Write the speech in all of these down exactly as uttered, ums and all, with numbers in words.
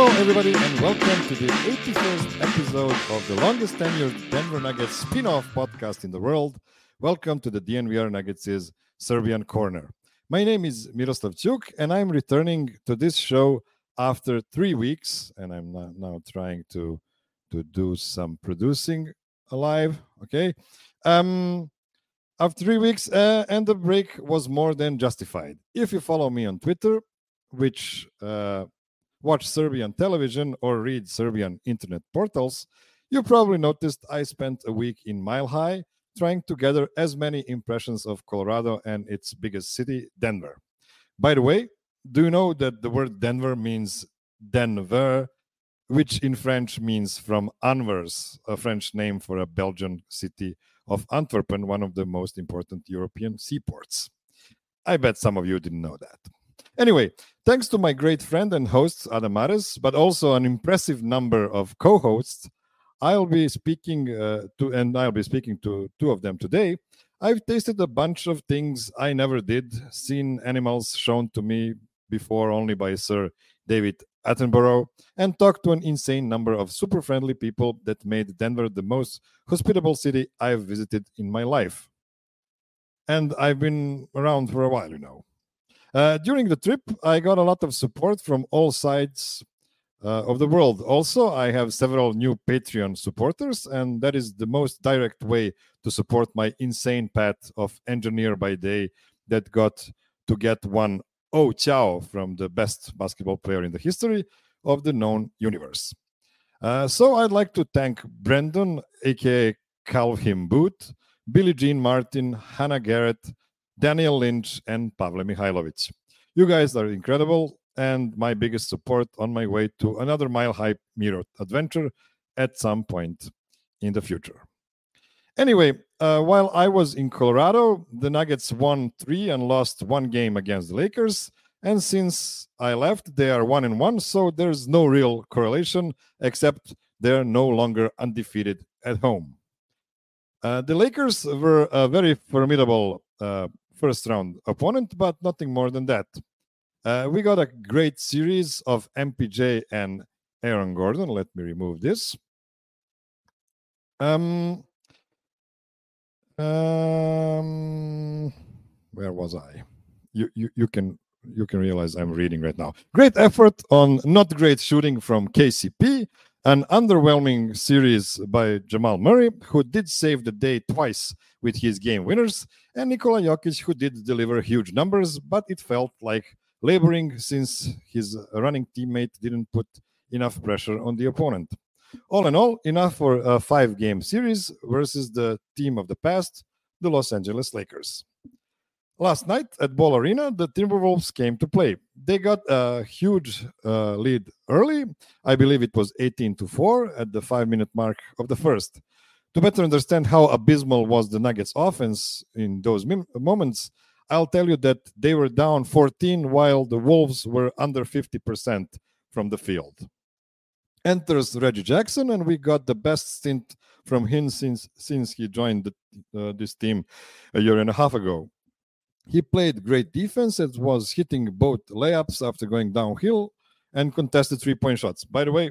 Hello, everybody, and welcome to the eighty-first episode of the longest tenured Denver Nuggets spin-off podcast in the world. Welcome to the D N V R Nuggets' Serbian Corner. My name is Miroslav Ćuk, and I'm returning to this show after three weeks, and I'm now, now trying to, to do some producing live, okay? Um, after three weeks, uh, and the break was more than justified. If you follow me on Twitter, which... Uh, watch Serbian television or read Serbian internet portals, you probably noticed I spent a week in Mile High trying to gather as many impressions of Colorado and its biggest city, Denver. By the way, do you know that the word Denver means Denver, which in French means from Anvers, a French name for a Belgian city of Antwerpen, one of the most important European seaports. I bet some of you didn't know that. Anyway, thanks to my great friend and host, Adamares, but also an impressive number of co-hosts, I'll be speaking uh, to, and I'll be speaking to two of them today. I've tasted a bunch of things I never did, seen animals shown to me before only by Sir David Attenborough, and talked to an insane number of super friendly people that made Denver the most hospitable city I've visited in my life. And I've been around for a while, you know. Uh, during the trip, I got a lot of support from all sides uh, of the world. Also, I have several new Patreon supporters, and that is the most direct way to support my insane path of engineer by day that got to get one oh ciao from the best basketball player in the history of the known universe. Uh, so I'd like to thank Brendan, aka Calvin Booth, Billie Jean Martin, Hannah Garrett, Daniel Lynch, and Pavle Mihailovic. You guys are incredible and my biggest support on my way to another Mile High Mirror adventure at some point in the future. Anyway, uh, while I was in Colorado, the Nuggets won three and lost one game against the Lakers. And since I left, they are one and one, so there's no real correlation, except they're no longer undefeated at home. Uh, the Lakers were a very formidable uh, first round opponent, but nothing more than that. Uh, we got a great series of M P J and Aaron Gordon. Let me remove this. Um, um, where was I? You, you, you can you can realize I'm reading right now. Great effort on not great shooting from K C P. An underwhelming series by Jamal Murray, who did save the day twice with his game winners, and Nikola Jokic, who did deliver huge numbers, but it felt like laboring since his running teammate didn't put enough pressure on the opponent. All in all, enough for a five-game series versus the team of the past, the Los Angeles Lakers. Last night at Ball Arena, the Timberwolves came to play. They got a huge uh, lead early. I believe it was eighteen to four at the five-minute mark of the first. To better understand how abysmal was the Nuggets' offense in those mim- moments, I'll tell you that they were down fourteen while the Wolves were under fifty percent from the field. Enters Reggie Jackson, and we got the best stint from him since, since he joined the, uh, this team a year and a half ago. He played great defense and was hitting both layups after going downhill and contested three-point shots. By the way,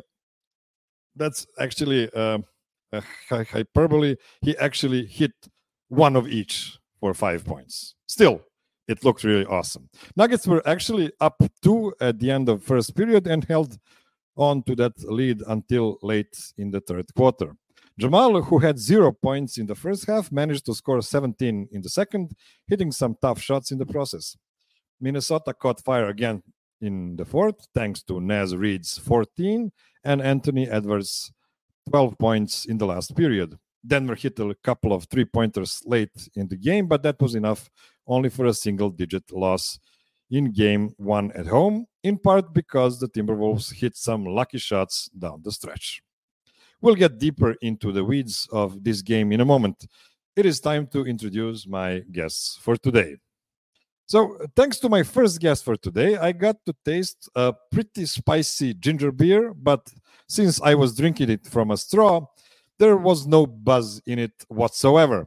that's actually uh, a hyperbole. He actually hit one of each for five points. Still, it looked really awesome. Nuggets were actually up two at the end of first period and held on to that lead until late in the third quarter. Jamal, who had zero points in the first half, managed to score seventeen in the second, hitting some tough shots in the process. Minnesota caught fire again in the fourth, thanks to Naz Reid's fourteen and Anthony Edwards' twelve points in the last period. Denver hit a couple of three-pointers late in the game, but that was enough only for a single-digit loss in game one at home, in part because the Timberwolves hit some lucky shots down the stretch. We'll get deeper into the weeds of this game in a moment. It is time to introduce my guests for today. So, thanks to my first guest for today, I got to taste a pretty spicy ginger beer, but since I was drinking it from a straw, there was no buzz in it whatsoever.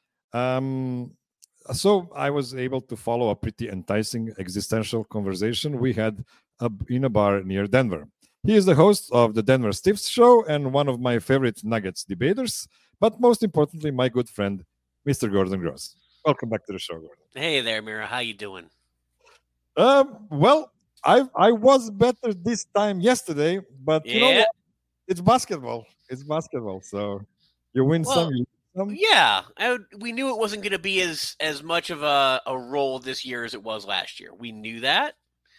Um, so I was able to follow a pretty enticing existential conversation we had in a bar near Denver. He is the host of the Denver Stiffs show and one of my favorite Nuggets debaters, but most importantly, my good friend, Mister Gordon Gross. Welcome back to the show, Gordon. Hey there, Mira. How you doing? Um, well, I I was better this time yesterday, but yeah. you know what? It's basketball. It's basketball. So you win well, some, you lose some. Yeah, I, we knew it wasn't going to be as as much of a, a role this year as it was last year. We knew that.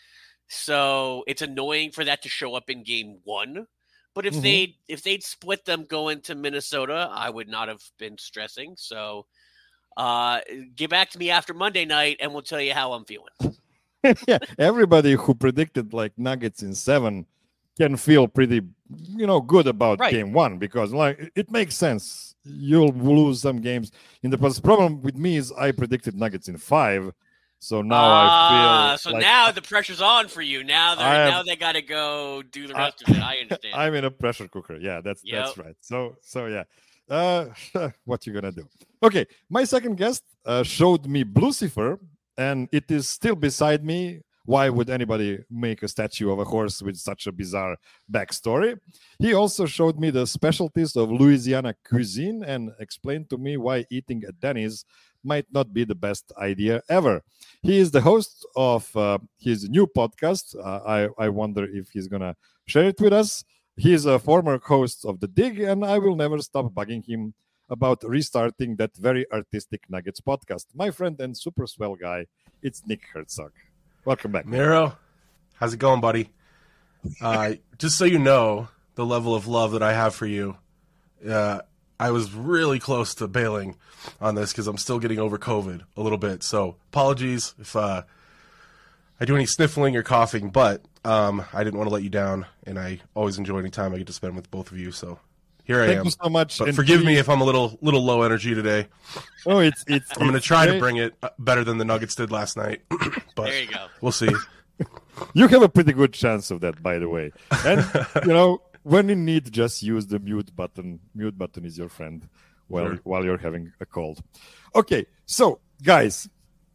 So it's annoying for that to show up in game one. But if mm-hmm. they if they'd split them going to Minnesota, I would not have been stressing. So uh, get back to me after Monday night, and we'll tell you how I'm feeling. Yeah, everybody who predicted like Nuggets in seven can feel pretty, you know, good about right. game one because like it makes sense. You'll lose some games in the past. The problem with me is I predicted Nuggets in five. So now uh, I feel so like now the pressure's on for you. Now they am, now they got to go do the rest I, of it. I understand. I'm in a pressure cooker. Yeah, that's yep. that's right. So so yeah, uh, what you gonna do? Okay, my second guest uh, showed me Blucifer, and it is still beside me. Why would anybody make a statue of a horse with such a bizarre backstory? He also showed me the specialties of Louisiana cuisine and explained to me why eating at Denny's might not be the best idea ever. He is the host of uh, his new podcast. Uh, I, I wonder if he's going to share it with us. He is a former host of The Dig, and I will never stop bugging him about restarting that very artistic Nuggets podcast. My friend and super swell guy, it's Nick Herzog. Welcome back. Miro, how's it going, buddy? Uh, just so you know the level of love that I have for you, uh, I was really close to bailing on this because I'm still getting over COVID a little bit. So apologies if uh, I do any sniffling or coughing, but um, I didn't want to let you down, and I always enjoy any time I get to spend with both of you. So here I Thank am. Thank you so much. But forgive me if I'm a little little low energy today. Oh, it's it's. I'm going to try great. to bring it better than the Nuggets did last night. But there you go. We'll see. You have a pretty good chance of that, by the way. And you know, when you need, just use the mute button. Mute button is your friend while sure. while you're having a cold. Okay, so guys,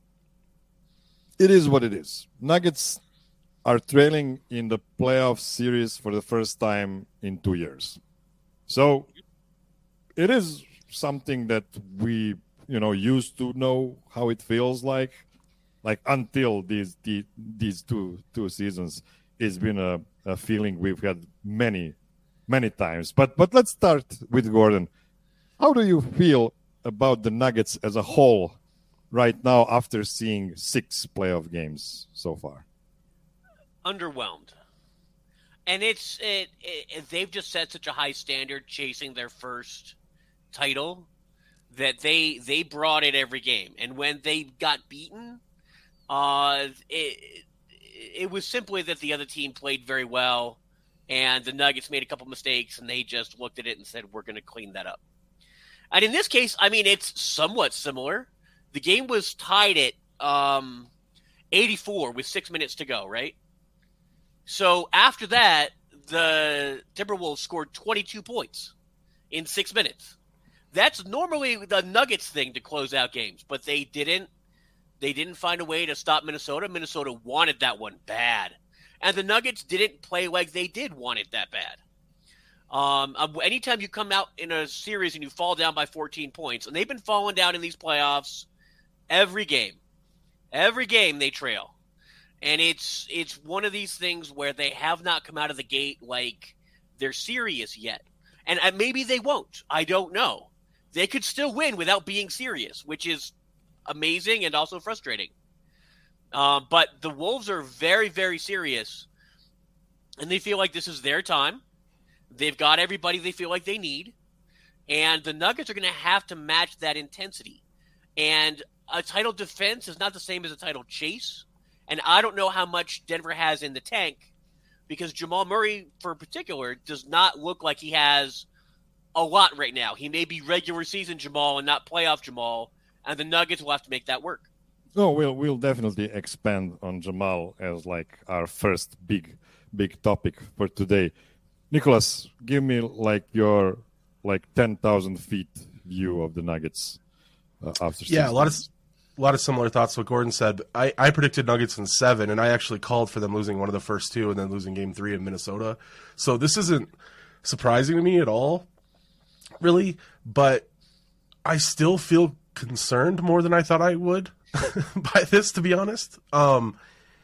it is what it is. Nuggets are trailing in the playoff series for the first time in two years. So it is something that we, you know, used to know how it feels like. Like until these the, these two two seasons, it's been a, a feeling we've had many, many times. But but let's start with Gordon. How do you feel about the Nuggets as a whole right now after seeing six playoff games so far? Underwhelmed. And it's it, it, they've just set such a high standard chasing their first title that they they brought it every game. And when they got beaten, uh, it it was simply that the other team played very well, and the Nuggets made a couple mistakes, and they just looked at it and said, "We're going to clean that up." And in this case, I mean, it's somewhat similar. The game was tied at um, eighty-four with six minutes to go, right? So after that, the Timberwolves scored twenty-two points in six minutes. That's normally the Nuggets thing to close out games, but they didn't. They didn't find a way to stop Minnesota. Minnesota wanted that one bad. And the Nuggets didn't play like they did want it that bad. Um, anytime you come out in a series and you fall down by fourteen points, and they've been falling down in these playoffs every game. Every game they trail. And it's it's one of these things where they have not come out of the gate like they're serious yet. And maybe they won't. I don't know. They could still win without being serious, which is amazing and also frustrating. Um, but the Wolves are very, very serious, and they feel like this is their time. They've got everybody they feel like they need, and the Nuggets are going to have to match that intensity. And a title defense is not the same as a title chase, and I don't know how much Denver has in the tank, because Jamal Murray, for particular, does not look like he has a lot right now. He may be regular season Jamal and not playoff Jamal, and the Nuggets will have to make that work. No, we'll we'll definitely expand on Jamal as like our first big big topic for today. Nicholas, give me like your like ten thousand feet view of the Nuggets uh, after. Yeah, a lot of a lot of similar thoughts to what Gordon said. I, I predicted Nuggets in seven, and I actually called for them losing one of the first two and then losing game three in Minnesota. So this isn't surprising to me at all, really. But I still feel concerned more than I thought I would by this, to be honest. Um,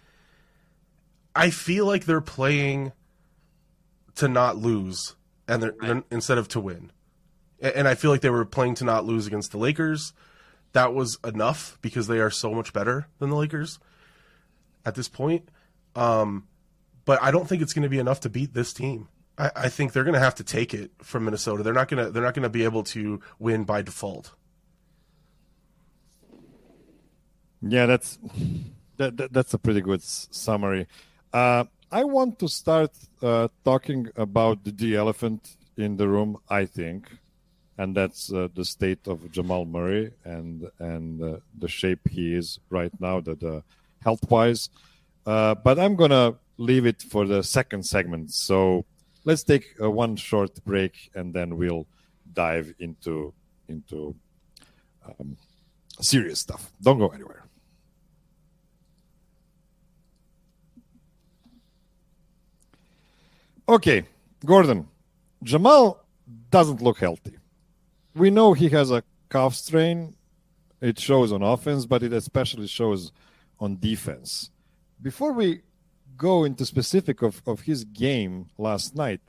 I feel like they're playing to not lose, and they're, right. they're instead of to win. And I feel like they were playing to not lose against the Lakers. That was enough because they are so much better than the Lakers at this point. Um, but I don't think it's going to be enough to beat this team. I, I think they're going to have to take it from Minnesota. They're not going to. They're not going to be able to win by default. Yeah, that's that, that that's a pretty good s- summary. Uh, I want to start uh, talking about the, the elephant in the room, I think, and that's uh, the state of Jamal Murray and and uh, the shape he is right now, that uh, health-wise. Uh, but I'm gonna leave it for the second segment. So let's take uh, one short break, and then we'll dive into into um, serious stuff. Don't go anywhere. Okay, Gordon, Jamal doesn't look healthy. We know he has a calf strain. It shows on offense, but it especially shows on defense. Before we go into specific of, of his game last night,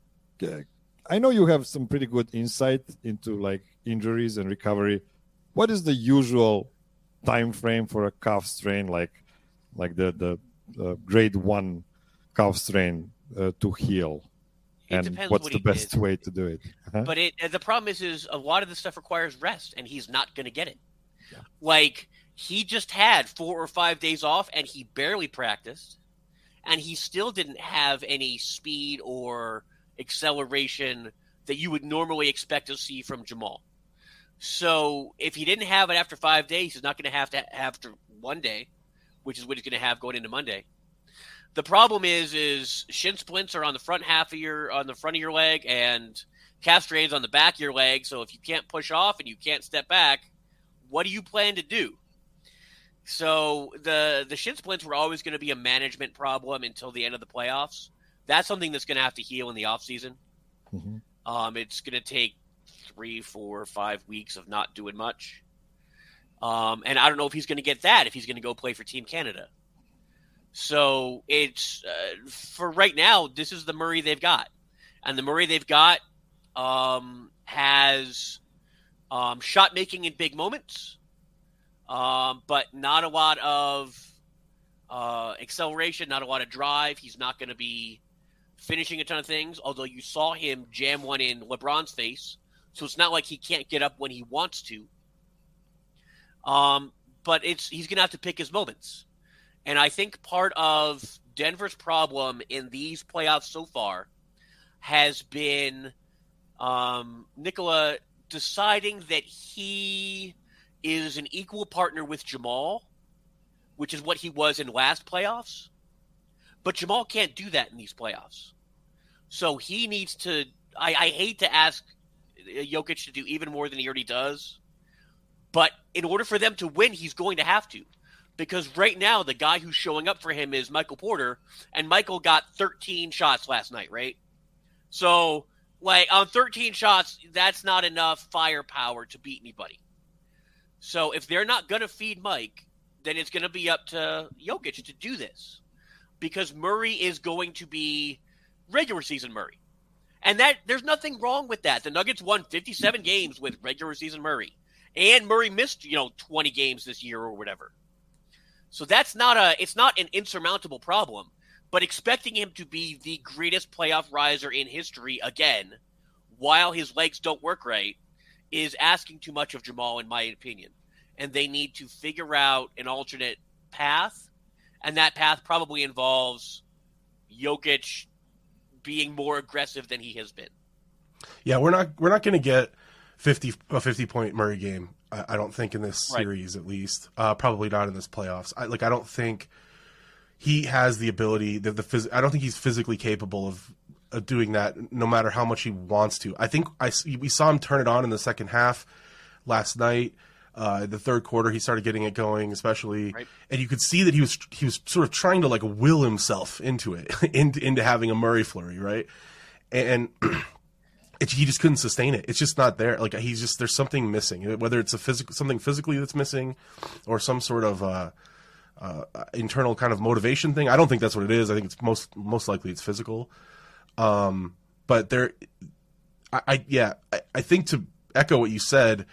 I know you have some pretty good insight into like injuries and recovery. What is the usual time frame for a calf strain, like like the the uh, grade one calf strain? Uh, to heal, it and what's what the best did. way to do it? Uh-huh. But it the problem is, is a lot of this stuff requires rest, and he's not going to get it. Yeah. Like he just had four or five days off, and he barely practiced, and he still didn't have any speed or acceleration that you would normally expect to see from Jamal. So if he didn't have it after five days, he's not going to have to have after one day, which is what he's going to have going into Monday. The problem is, is shin splints are on the front half of your, on the front of your leg, and calf strains on the back of your leg. So if you can't push off and you can't step back, what do you plan to do? So the the shin splints were always going to be a management problem until the end of the playoffs. That's something that's going to have to heal in the offseason. Mm-hmm. Um, it's going to take three, four, five weeks of not doing much. Um, and I don't know if he's going to get that if he's going to go play for Team Canada. So it's uh, for right now, this is the Murray they've got. And the Murray they've got um, has um, shot making in big moments, um, but not a lot of uh, acceleration, not a lot of drive. He's not going to be finishing a ton of things, although you saw him jam one in LeBron's face. So it's not like he can't get up when he wants to. Um, but it's he's going to have to pick his moments. And I think part of Denver's problem in these playoffs so far has been um, Nikola deciding that he is an equal partner with Jamal, which is what he was in last playoffs. But Jamal can't do that in these playoffs. So he needs to – I hate to ask Jokic to do even more than he already does. But in order for them to win, he's going to have to. Because right now, the guy who's showing up for him is Michael Porter, and Michael got thirteen shots last night, right? So, like, on thirteen shots, that's not enough firepower to beat anybody. So, if they're not going to feed Mike, then it's going to be up to Jokic to do this. Because Murray is going to be regular season Murray. And that there's nothing wrong with that. The Nuggets won fifty-seven games with regular season Murray. And Murray missed, you know, twenty games this year or whatever. So that's not a, it's not an insurmountable problem, but expecting him to be the greatest playoff riser in history again, while his legs don't work right, is asking too much of Jamal, in my opinion. And they need to figure out an alternate path, and that path probably involves Jokic being more aggressive than he has been. Yeah, we're not we're not going to get fifty a fifty point Murray game. I don't think in this series, right. At least, uh, probably not in this playoffs. I, like, I don't think he has the ability. The, the phys- I don't think he's physically capable of, of doing that, no matter how much he wants to. I think I we saw him turn it on in the second half last night. Uh, the third quarter, he started getting it going, especially, Right. and you could see that he was he was sort of trying to like will himself into it, into, into having a Murray flurry, right? And it, he just couldn't sustain it. It's just not there. Like he's just there's something missing, whether it's a physical something physically that's missing, or some sort of uh, uh, internal kind of motivation thing. I don't think that's what it is. I think it's most most likely it's physical. Um, but there, I, I yeah, I, I think to echo what you said.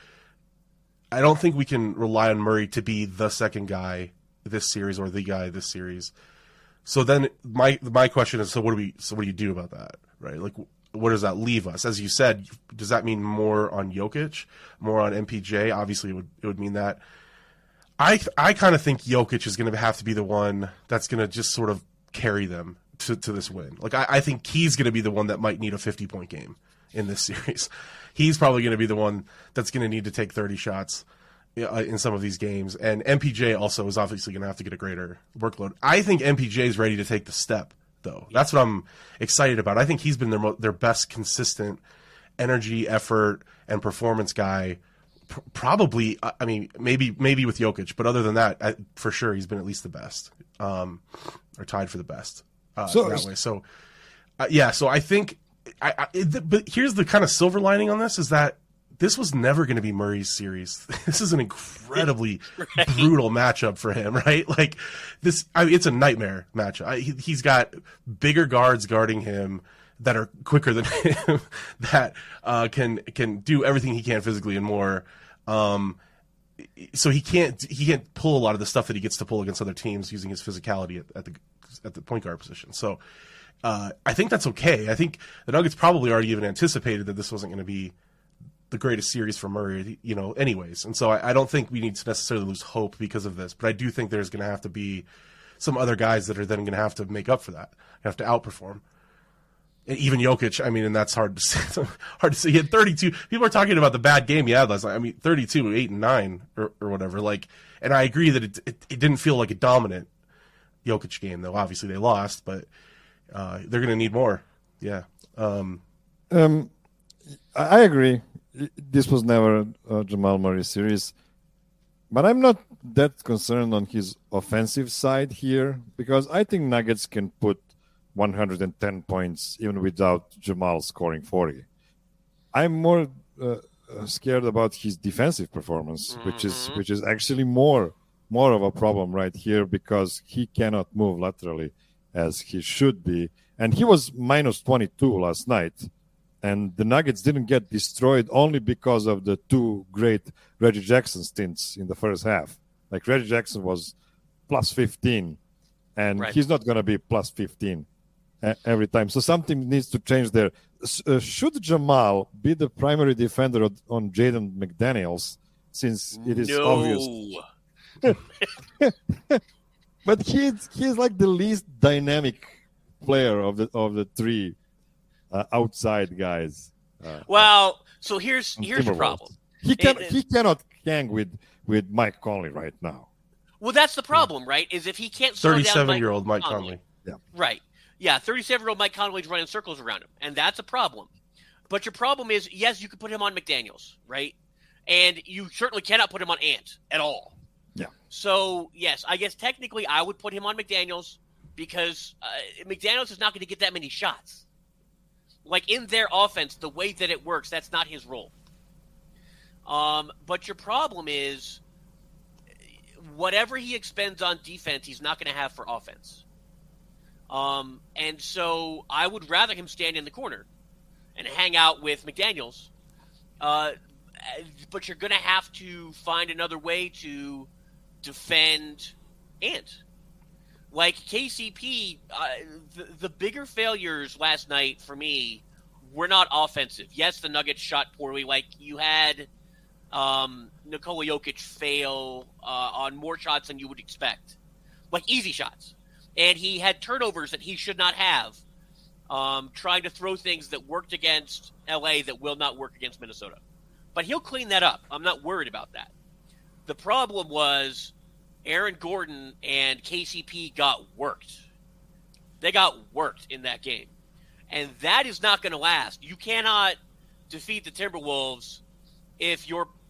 I don't think we can rely on Murray to be the second guy this series or the guy this series. So then my my question is, so what do we so what do you do about that, right? Like, what does that leave us? As you said, does that mean more on Jokic, more on M P J? Obviously, it would it would mean that. I I kind of think Jokic is going to have to be the one that's going to just sort of carry them to, to this win. Like I, I think he's going to be the one that might need a fifty point game in this series. He's probably going to be the one that's going to need to take thirty shots in some of these games. And M P J also is obviously going to have to get a greater workload. I think M P J is ready to take the step, though. That's what I'm excited about. I think he's been their mo- their best consistent energy, effort, and performance guy. P- probably, I mean, maybe maybe with Jokic, but other than that, I, for sure, he's been at least the best, um, or tied for the best uh, So- that way. So, uh, yeah, so I think I, I it, but here's the kind of silver lining on this is that this was never going to be Murray's series. This is an incredibly Right. brutal matchup for him, right? Like this, I mean, it's a nightmare matchup. I, he, he's got bigger guards guarding him that are quicker than him, that uh, can can do everything he can physically and more. Um, so he can't he can't pull a lot of the stuff that he gets to pull against other teams using his physicality at, at the at the point guard position. So. Uh, I think that's okay. I think the Nuggets probably already even anticipated that this wasn't going to be the greatest series for Murray, you know, anyways. And so I, I don't think we need to necessarily lose hope because of this, but I do think there's going to have to be some other guys that are then going to have to make up for that, have to outperform. And even Jokic, I mean, and that's hard to say. hard to say. He had thirty-two. People are talking about the bad game he had last night. I mean, thirty-two, eight, and nine, or, or whatever. Like, and I agree that it, it it didn't feel like a dominant Jokic game, though. Obviously, they lost, but. Uh, they're going to need more. Yeah. Um, Um, I I agree. This was never a Jamal Murray series, but I'm not that concerned on his offensive side here because I think Nuggets can put one hundred ten points even without Jamal scoring forty. I'm more uh, scared about his defensive performance, mm-hmm. which is which is actually more more of a problem right here because he cannot move laterally as he should be. And he was minus twenty-two last night. And the Nuggets didn't get destroyed only because of the two great Reggie Jackson stints in the first half. Like Reggie Jackson was plus fifteen, and right. he's not going to be plus fifteen every time. So something needs to change there. Uh, should Jamal be the primary defender on Jaden McDaniels, since it is no. obvious? But he's he's like the least dynamic player of the of the three uh, outside guys. Uh, well, so here's here's the problem. He can it, he cannot hang with, with Mike Conley right now. Well, that's the problem, right? Is if he can't slow down thirty-seven-year-old Mike Conley. Conley. Yeah. Right. Yeah, thirty-seven-year-old Mike Conley's running circles around him, and that's a problem. But your problem is, yes, you can put him on McDaniels, right? And you certainly cannot put him on Ant at all. Yeah. So, yes, I guess technically I would put him on McDaniels because uh, McDaniels is not going to get that many shots. Like, in their offense, the way that it works, that's not his role. Um, but your problem is whatever he expends on defense, he's not going to have for offense. Um, and so I would rather him stand in the corner and hang out with McDaniels. Uh, but you're going to have to find another way to defend Ant. Like K C P, uh, the, the bigger failures last night for me were not offensive. Yes, the Nuggets shot poorly. Like you had um, Nikola Jokic fail uh, on more shots than you would expect. Like easy shots. And he had turnovers that he should not have, um, trying to throw things that worked against L A that will not work against Minnesota. But he'll clean that up. I'm not worried about that. The problem was Aaron Gordon and K C P got worked. They got worked in that game. And that is not going to last. You cannot defeat the Timberwolves if your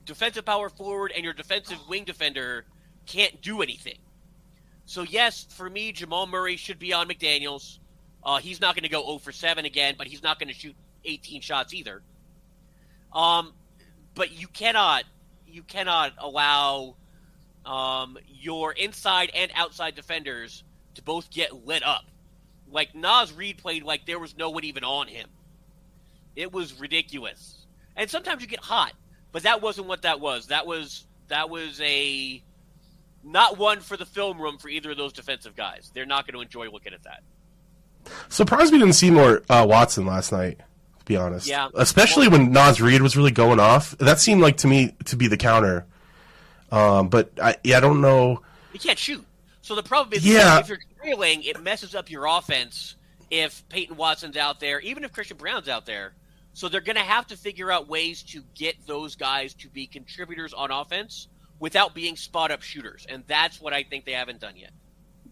defensive power forward and your defensive wing defender can't do anything. So, yes, for me, Jamal Murray should be on McDaniels. Uh, he's not going to go zero for seven again, but he's not going to shoot eighteen shots either. Um, but you cannot you cannot allow um, your inside and outside defenders to both get lit up. Like, Naz Reid played like there was no one even on him. It was ridiculous. And sometimes you get hot, but that wasn't what that was. That was that was a not one for the film room for either of those defensive guys. They're not going to enjoy looking at that. Surprised we didn't see more uh, Watson last night, to be honest. Yeah. Especially well, when Naz Reid was really going off. That seemed like to me to be the counter. Um, but I, yeah, I don't know. He can't shoot. So the problem is yeah. if you're trailing, it messes up your offense if Peyton Watson's out there, even if Christian Brown's out there. So they're going to have to figure out ways to get those guys to be contributors on offense without being spot-up shooters. And that's what I think they haven't done yet.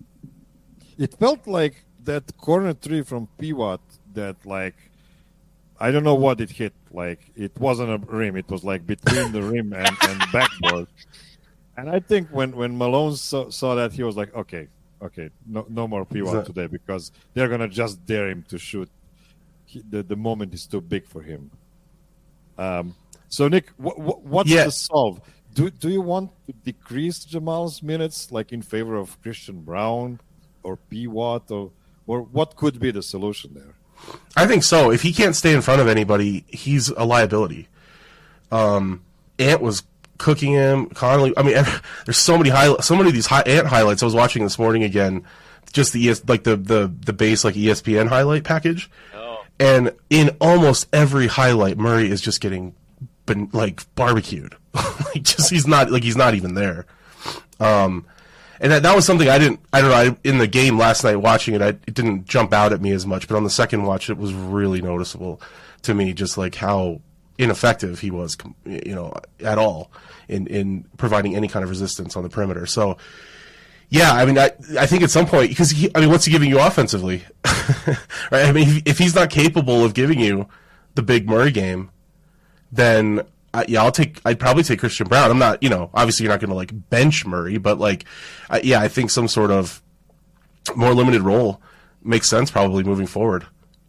It felt like that corner three from P W A T that, like, I don't know what it hit. Like, it wasn't a rim. It was, like, between the rim and, and backboard. And I think when, when Malone saw, saw that, he was like, okay, okay, no no more P W A T today because they're going to just dare him to shoot. He, the, the moment is too big for him. Um, so, Nick, wh- wh- what's yeah. the solve? Do do you want to decrease Jamal's minutes, like in favor of Christian Brown or P W A T, or or what could be the solution there? I think so. If he can't stay in front of anybody, he's a liability. Um, Ant was cooking him. Connolly. I mean, there's so many highlights. So many of these high, Ant highlights I was watching this morning again. Just the like the the the base like E S P N highlight package. Oh. And in almost every highlight, Murray is just getting been like barbecued. Like just he's not like he's not even there. Um, and that that was something I didn't I don't know I, in the game last night watching it I, it didn't jump out at me as much, but on the second watch it was really noticeable to me just like how ineffective he was, you know, at all in in providing any kind of resistance on the perimeter. So. Yeah, I mean, I I think at some point, because he, I mean, what's he giving you offensively, right? I mean, if, if he's not capable of giving you the big Murray game, then I, yeah, I'll take. I'd probably take Christian Brown. I'm not, you know, obviously you're not going to like bench Murray, but like, I, yeah, I think some sort of more limited role makes sense probably moving forward.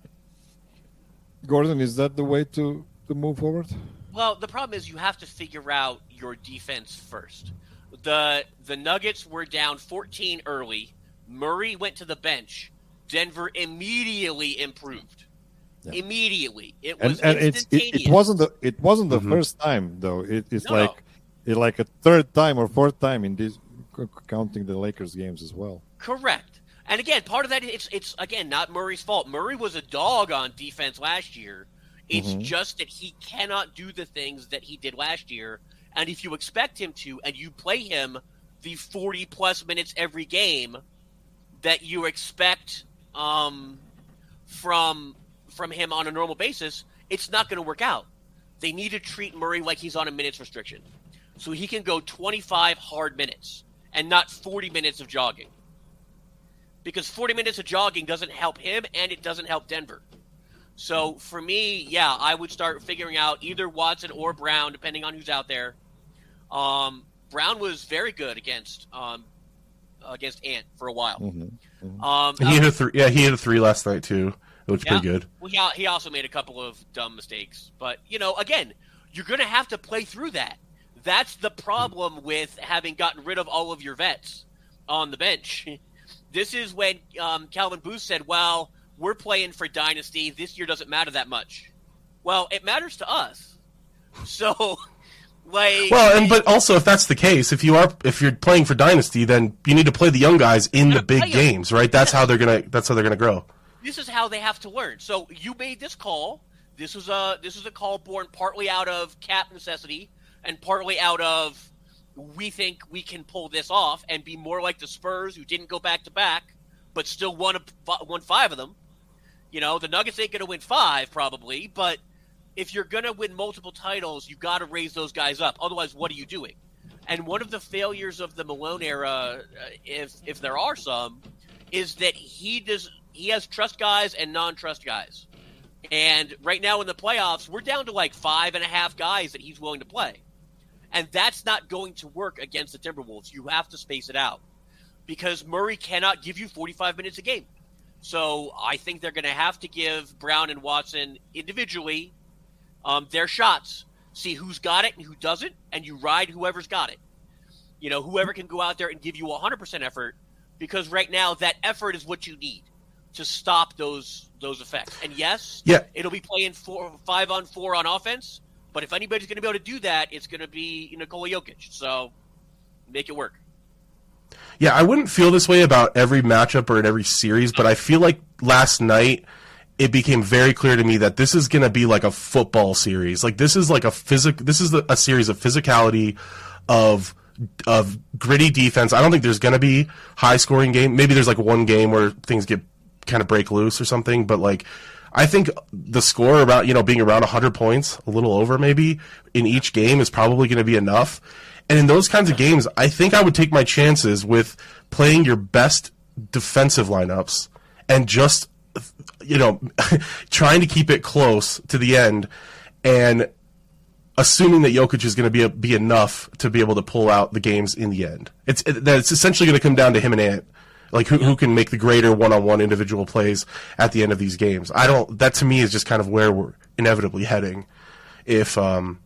Gordon, is that the way to to move forward? Well, the problem is you have to figure out your defense first. The the Nuggets were down fourteen early. Murray went to the bench. Denver immediately improved. Yeah. Immediately, it was and, and instantaneous. It's, it, it wasn't the it wasn't the mm-hmm. first time though. It, it's no, like no. it like a third time or fourth time in this, counting the Lakers games as well. Correct. And again, part of that it's it's again not Murray's fault. Murray was a dog on defense last year. It's mm-hmm. just that he cannot do the things that he did last year. And if you expect him to, and you play him the forty-plus minutes every game that you expect um, from from him on a normal basis, it's not going to work out. They need to treat Murray like he's on a minutes restriction. So he can go twenty-five hard minutes and not forty minutes of jogging. Because forty minutes of jogging doesn't help him, and it doesn't help Denver. So for me, yeah, I would start figuring out either Watson or Brown, depending on who's out there. Um, Brown was very good against um, against Ant for a while. Mm-hmm. Mm-hmm. Um, he hit a three. Yeah, he hit a three last night too. It looked yeah, pretty good. Well, he, he also made a couple of dumb mistakes, but you know, again, you're going to have to play through that. That's the problem with having gotten rid of all of your vets on the bench. This is when um, Calvin Booth said, "Well, we're playing for Dynasty. This year doesn't matter that much." Well, it matters to us. So, like, well, and but also if that's the case, if you are if you're playing for Dynasty, then you need to play the young guys in the big games, right? That's how they're gonna. That's how they're gonna grow. This is how they have to learn. So you made this call. This was a this was a call born partly out of cap necessity and partly out of we think we can pull this off and be more like the Spurs who didn't go back to back but still won a, won five of them. You know, the Nuggets ain't going to win five probably, but if you're going to win multiple titles, you got to raise those guys up. Otherwise, what are you doing? And one of the failures of the Malone era, uh, if if there are some, is that he does he has trust guys and non-trust guys. And right now in the playoffs, we're down to like five and a half guys that he's willing to play. And that's not going to work against the Timberwolves. You have to space it out because Murray cannot give you forty-five minutes a game. So I think they're going to have to give Brown and Watson individually um, their shots. See who's got it and who doesn't, and you ride whoever's got it. You know, whoever can go out there and give you one hundred percent effort, because right now that effort is what you need to stop those those effects. And yes, yeah. it'll be playing four, five on four on offense, but if anybody's going to be able to do that, it's going to be Nikola Jokic. So make it work. Yeah, I wouldn't feel this way about every matchup or in every series, but I feel like last night it became very clear to me that this is going to be like a football series. Like this is like a physic. This is a series of physicality, of of gritty defense. I don't think there's going to be high scoring game. Maybe there's like one game where things get kind of break loose or something. But like, I think the score about you know being around one hundred points, a little over maybe in each game is probably going to be enough. And in those kinds of games, I think I would take my chances with playing your best defensive lineups and just, you know, trying to keep it close to the end and assuming that Jokic is going to be a, be enough to be able to pull out the games in the end. It's it, that it's essentially going to come down to him and Ant, like who who can make the greater one-on-one individual plays at the end of these games. I don't. That to me is just kind of where we're inevitably heading. If um.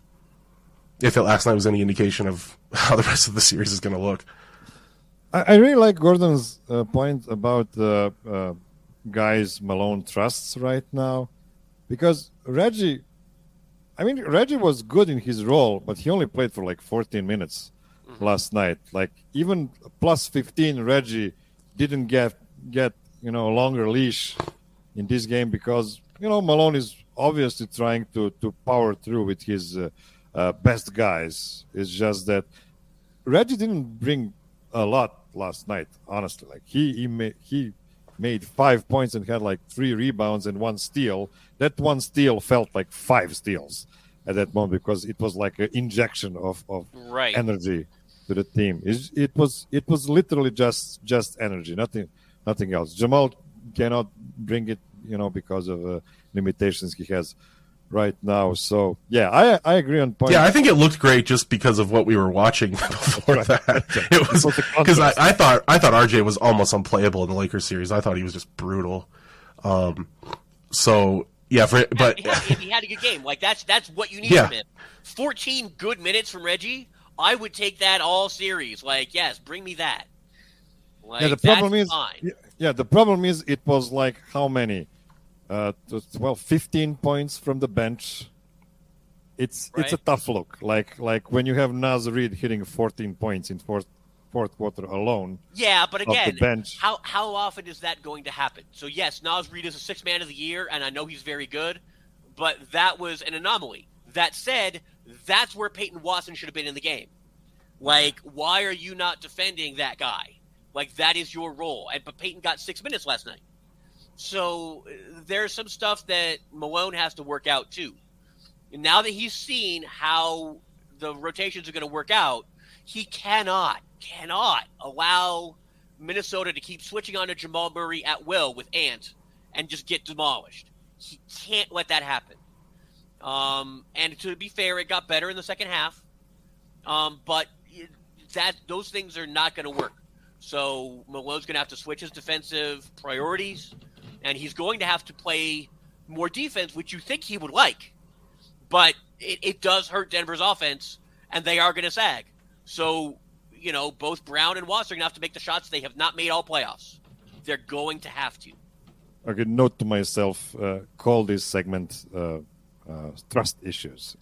If it last night was any indication of how the rest of the series is going to look. I, I really like Gordon's uh, point about the uh, uh, guys Malone trusts right now, because Reggie, I mean, Reggie was good in his role, but he only played for like fourteen minutes mm-hmm. last night. Like even plus fifteen, Reggie didn't get get you know a longer leash in this game because you know Malone is obviously trying to to power through with his. Uh, Uh, best guys. It's just that Reggie didn't bring a lot last night. Honestly, like he he made he made five points and had like three rebounds and one steal. That one steal felt like five steals at that moment because it was like an injection of, of right. energy to the team. It, it was it was literally just just energy, nothing nothing else. Jamal cannot bring it, you know, because of uh, limitations he has right now. So yeah, I I agree on point. Yeah, I think it looked great just because of what we were watching before right. that. It was because I, I thought I thought R J was almost unplayable in the Lakers series. I thought he was just brutal. Um, so yeah, for but he had, he had a good game. Like that's that's what you need yeah. from him. fourteen good minutes from Reggie. I would take that all series. Like yes, bring me that. Like, yeah, the problem is fine. yeah, the problem is it was like how many. Uh, well, fifteen points from the bench. It's right. it's a tough look. Like like when you have Naz Reid hitting fourteen points in fourth fourth quarter alone. Yeah, but again, the bench. how how often is that going to happen? So yes, Naz Reid is a sixth man of the year, and I know he's very good, but that was an anomaly. That said, that's where Peyton Watson should have been in the game. Like, why are you not defending that guy? Like that is your role. And but Peyton got six minutes last night. So there's some stuff that Malone has to work out too. And now that he's seen how the rotations are going to work out, he cannot, cannot allow Minnesota to keep switching on to Jamal Murray at will with Ant and just get demolished. He can't let that happen. Um, and to be fair, it got better in the second half. Um, but that those things are not going to work. So Malone's going to have to switch his defensive priorities. And he's going to have to play more defense, which you think he would like. But it, it does hurt Denver's offense, and they are going to sag. So, you know, both Brown and Watson are going to have to make the shots they have not made all playoffs. They're going to have to. Okay, note to myself, uh, call this segment uh, uh, trust issues.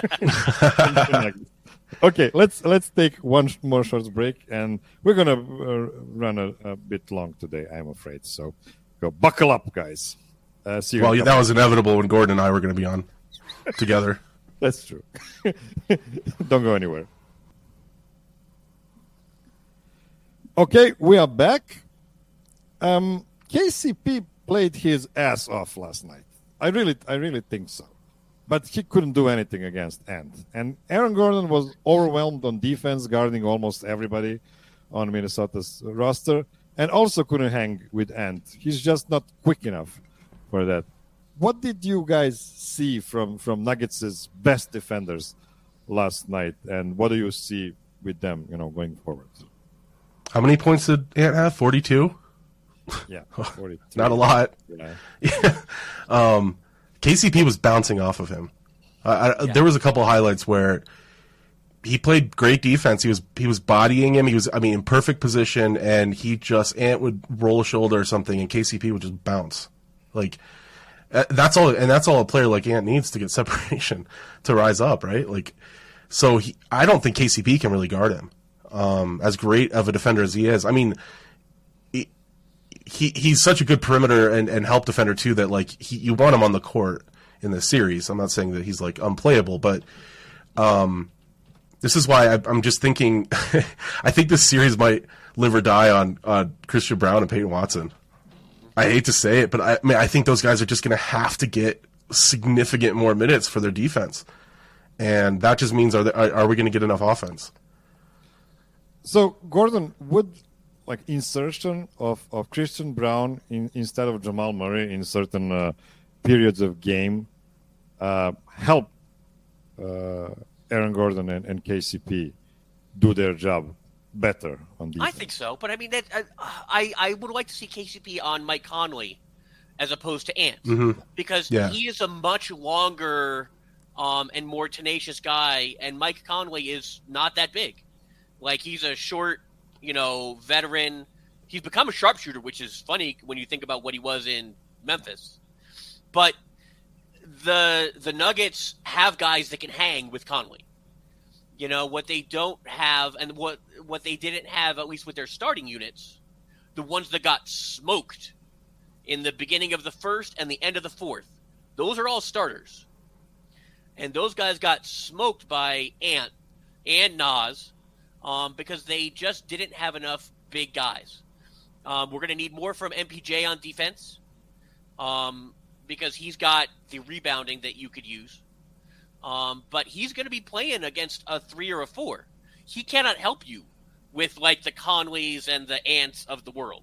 Okay, let's let's take one more short break, and we're going to uh, run a, a bit long today, I'm afraid. So go buckle up, guys. Uh, see you well, yeah, that was inevitable when Gordon and I were going to be on together. That's true. Don't go anywhere. Okay, we are back. Um, K C P played his ass off last night. I really, I really think so. But he couldn't do anything against Ant. And Aaron Gordon was overwhelmed on defense, guarding almost everybody on Minnesota's roster, and also couldn't hang with Ant. He's just not quick enough for that. What did you guys see from, from Nuggets' best defenders last night. And what do you see with them, you know, going forward? How many points did Ant have? forty-two? Yeah, forty-two. Not a lot. Yeah. Yeah. um, K C P was bouncing off of him. Uh, I, Yeah. There was a couple highlights where he played great defense. He was he was bodying him. He was, I mean, in perfect position, and he just Ant would roll a shoulder or something, and K C P would just bounce. Like uh, that's all, and that's all a player like Ant needs to get separation to rise up, right? Like, so he, I don't think K C P can really guard him. Um, as great of a defender as he is, I mean, he, he he's such a good perimeter and, and help defender too that like he, you want him on the court in this series. I'm not saying that he's like unplayable, but um, this is why I, I'm just thinking. I think this series might live or die on on Christian Braun and Peyton Watson. I hate to say it, but I, I mean I think those guys are just going to have to get significant more minutes for their defense, and that just means are they, are, are we going to get enough offense? So, Gordon, would like insertion of, of Christian Braun in, instead of Jamal Murray in certain uh, periods of game uh, help uh, Aaron Gordon and, and K C P do their job better on defense? I think so, but I mean, that, uh, I I would like to see K C P on Mike Conley as opposed to Ant Mm-hmm. because Yeah. he is a much longer um, and more tenacious guy, and Mike Conley is not that big. Like, he's a short, you know, veteran. He's become a sharpshooter, which is funny when you think about what he was in Memphis. But the the Nuggets have guys that can hang with Conley. You know, what they don't have, and what what they didn't have, at least with their starting units, the ones that got smoked in the beginning of the first and the end of the fourth, those are all starters. And those guys got smoked by Ant and Nas um, because they just didn't have enough big guys. Um, we're going to need more from M P J on defense um, because he's got the rebounding that you could use. Um, but he's going to be playing against a three or a four. He cannot help you with, like, the Conleys and the Ants of the world.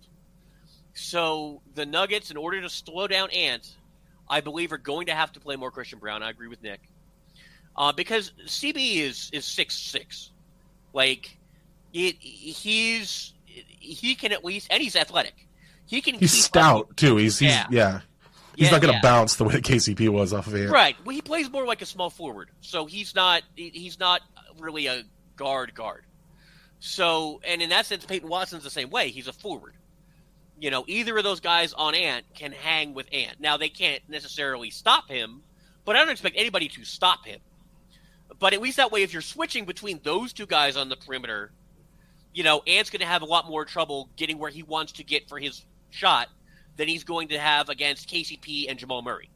So the Nuggets, in order to slow down Ant, I believe are going to have to play more Christian Braun. I agree with Nick. Uh, because C B is is six six. Like, it, he's he can at least, and he's athletic. He can. He's keep stout up, too. He's he's Yeah. yeah. He's Yeah, not going to yeah. bounce the way K C P was off of Ant. Right. Well, he plays more like a small forward, so he's not he- he's not really a guard guard. So, and in that sense, Peyton Watson's the same way. He's a forward. You know, either of those guys on Ant can hang with Ant. Now, they can't necessarily stop him, but I don't expect anybody to stop him. But at least that way, if you're switching between those two guys on the perimeter, you know, Ant's going to have a lot more trouble getting where he wants to get for his shot than he's going to have against K C P and Jamal Murray.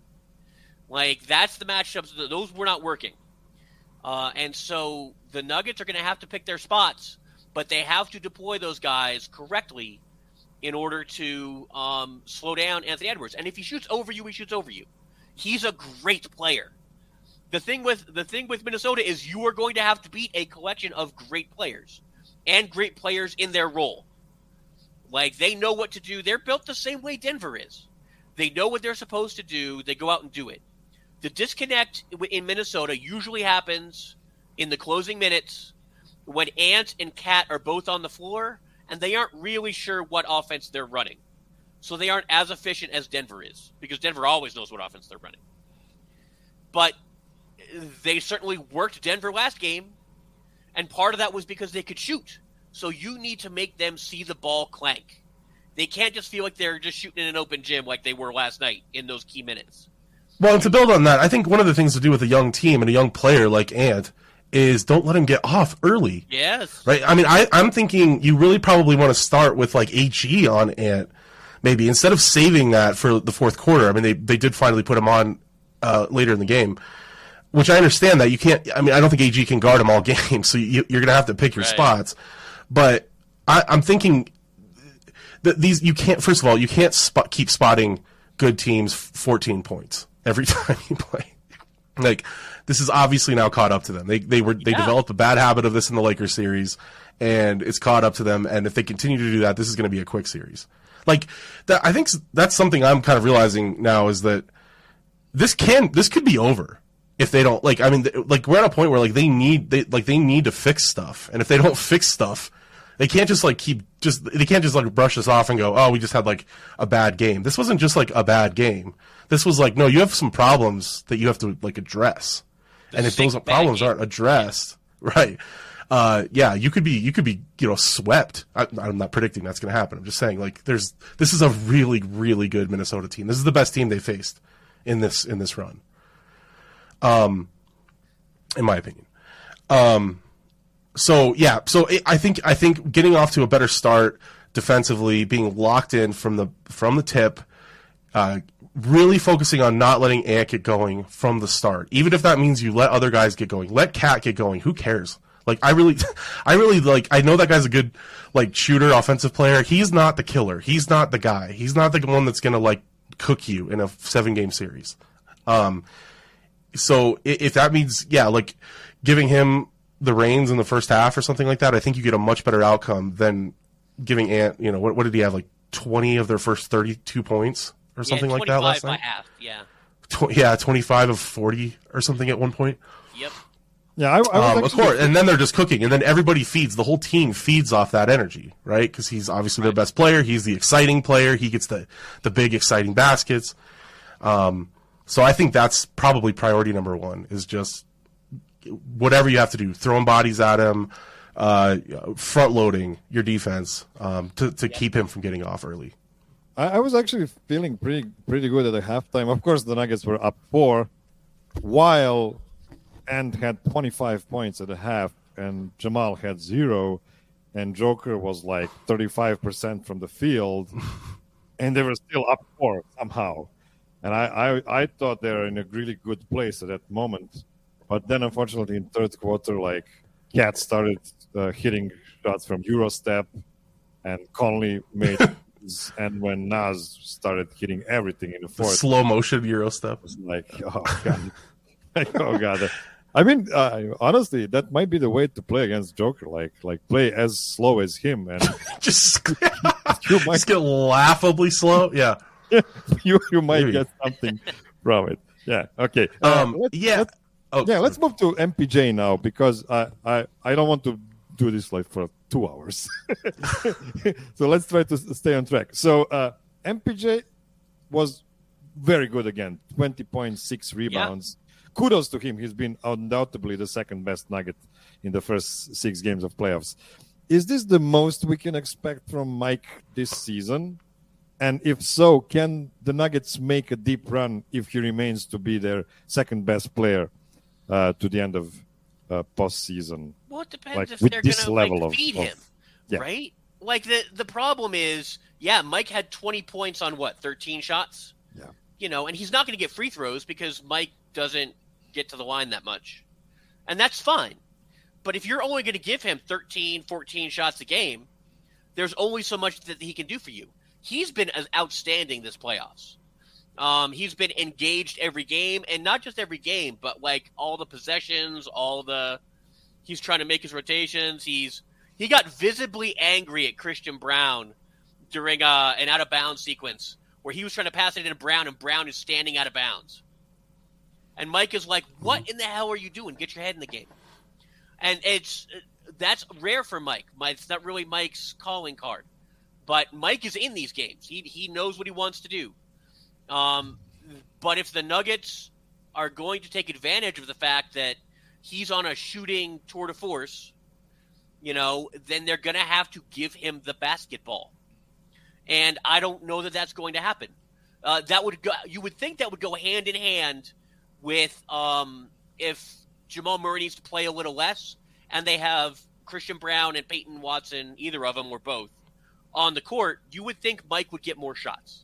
Like, that's the matchups. Those were not working. Uh, and so the Nuggets are going to have to pick their spots, but they have to deploy those guys correctly in order to um, slow down Anthony Edwards. And if he shoots over you, he shoots over you. He's a great player. The thing with the thing with Minnesota is you are going to have to beat a collection of great players and great players in their role. Like, they know what to do. They're built the same way Denver is. They know what they're supposed to do. They go out and do it. The disconnect in Minnesota usually happens in the closing minutes when Ant and Cat are both on the floor and they aren't really sure what offense they're running. So they aren't as efficient as Denver is, because Denver always knows what offense they're running. But they certainly worked Denver last game, and part of that was because they could shoot. So you need to make them see the ball clank. They can't just feel like they're just shooting in an open gym like they were last night in those key minutes. Well, and to build on that, I think one of the things to do with a young team and a young player like Ant is don't let him get off early. Yes. Right? I mean, I, I'm thinking you really probably want to start with like A G on Ant, maybe, instead of saving that for the fourth quarter. I mean, they, they did finally put him on uh, later in the game, which I understand that you can't. I mean, I don't think A G can guard him all game, so you, you're going to have to pick your Right. spots. But I, I'm thinking that these you can't. First of all, you can't spot, keep spotting good teams fourteen points every time you play. Like, this is obviously now caught up to them. They they were they Yeah. developed a bad habit of this in the Lakers series, and it's caught up to them. And if they continue to do that, this is going to be a quick series. Like that, I think that's something I'm kind of realizing now is that this can this could be over if they don't like, I mean, like we're at a point where like they need they like they need to fix stuff, and if they don't fix stuff, they can't just like keep just they can't just like brush this off and go, oh, we just had like a bad game. This wasn't just like a bad game. This was like, no, you have some problems that you have to like address, The and if those sick problems bad aren't addressed, right? Uh, yeah, you could be you could be you know swept. I, I'm not predicting that's going to happen. I'm just saying like there's this is a really really good Minnesota team. This is the best team they faced in this in this run. Um, in my opinion. Um, so yeah, so it, I think I think getting off to a better start defensively, being locked in from the from the tip, uh, really focusing on not letting Ant get going from the start, even if that means you let other guys get going. Let Cat get going. Who cares? Like I really, I really like. I know that guy's a good like shooter, offensive player. He's not the killer. He's not the guy. He's not the one that's gonna like cook you in a seven game series. Um. So if that means, yeah, like giving him the reins in the first half or something like that, I think you get a much better outcome than giving Ant, you know, what, what did he have, like twenty of their first thirty-two points or something yeah, like that last by night? half, yeah. Tw- yeah, twenty-five of forty or something at one point. Yep. Yeah, I, I was Um, of actually- course, and then they're just cooking, and then everybody feeds, the whole team feeds off that energy, right? Because he's obviously their best player, he's the exciting player, he gets the, the big exciting baskets. Um, So I think that's probably priority number one is just whatever you have to do, throwing bodies at him, uh, front loading your defense um, to, to keep him from getting off early. I, I was actually feeling pretty pretty good at the halftime. Of course, the Nuggets were up four, while Ant had twenty-five points at the half, and Jamal had zero, and Joker was like thirty-five percent from the field, and they were still up four somehow. And I, I, I thought they were in a really good place at that moment. But then, unfortunately, in third quarter, like, Cat started uh, hitting shots from Eurostep, and Conley made and when Naz started hitting everything in the The fourth, slow motion Euro step. it was like, oh, God. like, oh, God. I mean, uh, honestly, that might be the way to play against Joker. Like, like play as slow as him, and just, you might just get laughably slow. Yeah. you you might Maybe. get something from it. Yeah. Okay. Uh, Um, let's- yeah. let's- Oh, yeah. Let's move to M P J now because I, I, I don't want to do this like for two hours. So let's try to s- stay on track. So uh, M P J was very good again. twenty point six rebounds. Kudos to him. He's been undoubtedly the second best Nugget in the first six games of playoffs. Is this the most we can expect from Mike this season? And if so, can the Nuggets make a deep run if he remains to be their second best player uh, to the end of uh, postseason? Well, it depends Like, if with they're this going level to of- like, feed of- him, yeah. right? Like the the problem is, yeah, Mike had twenty points on what, thirteen shots? Yeah. You know, and he's not going to get free throws because Mike doesn't get to the line that much. And that's fine. But if you're only going to give him thirteen, fourteen shots a game, there's only so much that he can do for you. He's been as outstanding this playoffs. Um, he's been engaged every game, and not just every game, but like all the possessions, all the he's trying to make his rotations. He's he got visibly angry at Christian Brown during uh, an out of bounds sequence where he was trying to pass it into Brown, and Brown is standing out of bounds. And Mike is like, "What in the hell are you doing? Get your head in the game." And it's that's rare for Mike. Mike it's not really Mike's calling card. But Mike is in these games. He he knows what he wants to do. Um, but if the Nuggets are going to take advantage of the fact that he's on a shooting tour de force, you know, then they're going to have to give him the basketball. And I don't know that that's going to happen. Uh, that would go, you would think that would go hand in hand with um, if Jamal Murray needs to play a little less and they have Christian Brown and Peyton Watson, either of them or both, on the court, you would think Mike would get more shots.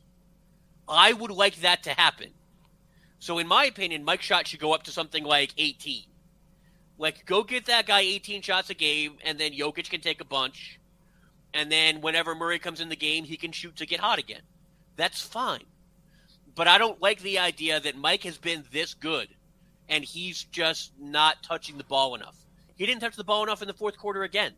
I would like that to happen. So in my opinion, Mike's shot should go up to something like eighteen. Like, go get that guy eighteen shots a game, and then Jokic can take a bunch. And then whenever Murray comes in the game, he can shoot to get hot again. That's fine. But I don't like the idea that Mike has been this good, and he's just not touching the ball enough. He didn't touch the ball enough in the fourth quarter again.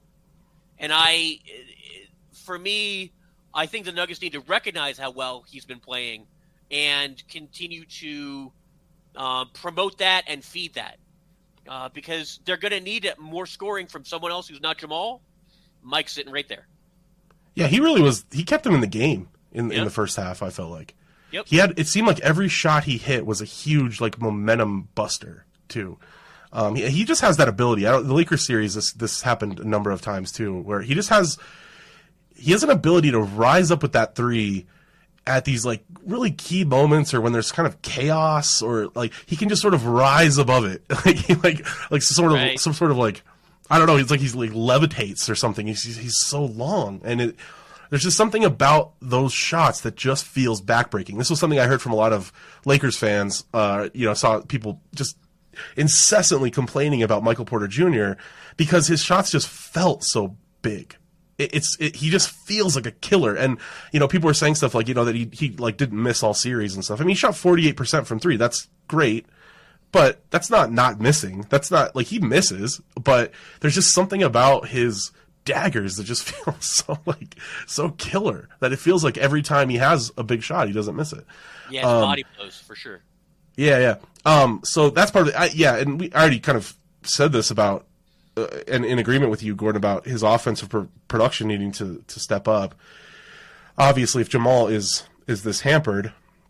And I... For me, I think the Nuggets need to recognize how well he's been playing and continue to Uh, promote that and feed that. Uh, because they're going to need more scoring from someone else who's not Jamal. Mike's sitting right there. Yeah, he really was. He kept him in the game in Yep. in the first half. I felt like. Yep. He had. It seemed like every shot he hit was a huge like momentum buster too. Um, he, he just has that ability. I don't, the Lakers series, this this happened a number of times too, where he just has. He has an ability to rise up with that three at these like really key moments, or when there's kind of chaos, or like he can just sort of rise above it, like he, like like sort of Right. some sort of like I don't know. It's like he's like levitates or something. He's he's, he's so long, and it, there's just something about those shots that just feels backbreaking. This was something I heard from a lot of Lakers fans. Uh, you know, saw people just incessantly complaining about Michael Porter Junior because his shots just felt so big. It, it's it, he just feels like a killer, and you know, people were saying stuff like you know that he he like didn't miss all series and stuff. I mean, he shot forty-eight percent from three. That's great. But that's not not missing. That's not like he misses, but there's just something about his daggers that just feel so like so killer that it feels like every time he has a big shot, he doesn't miss it. Yeah, his Um, body blows for sure. Yeah, yeah. Um, so that's part of it. I, yeah, and we already kind of said this about, uh, and in agreement with you, Gordon, about his offensive pr- production needing to to step up. Obviously, if Jamal is is this hampered.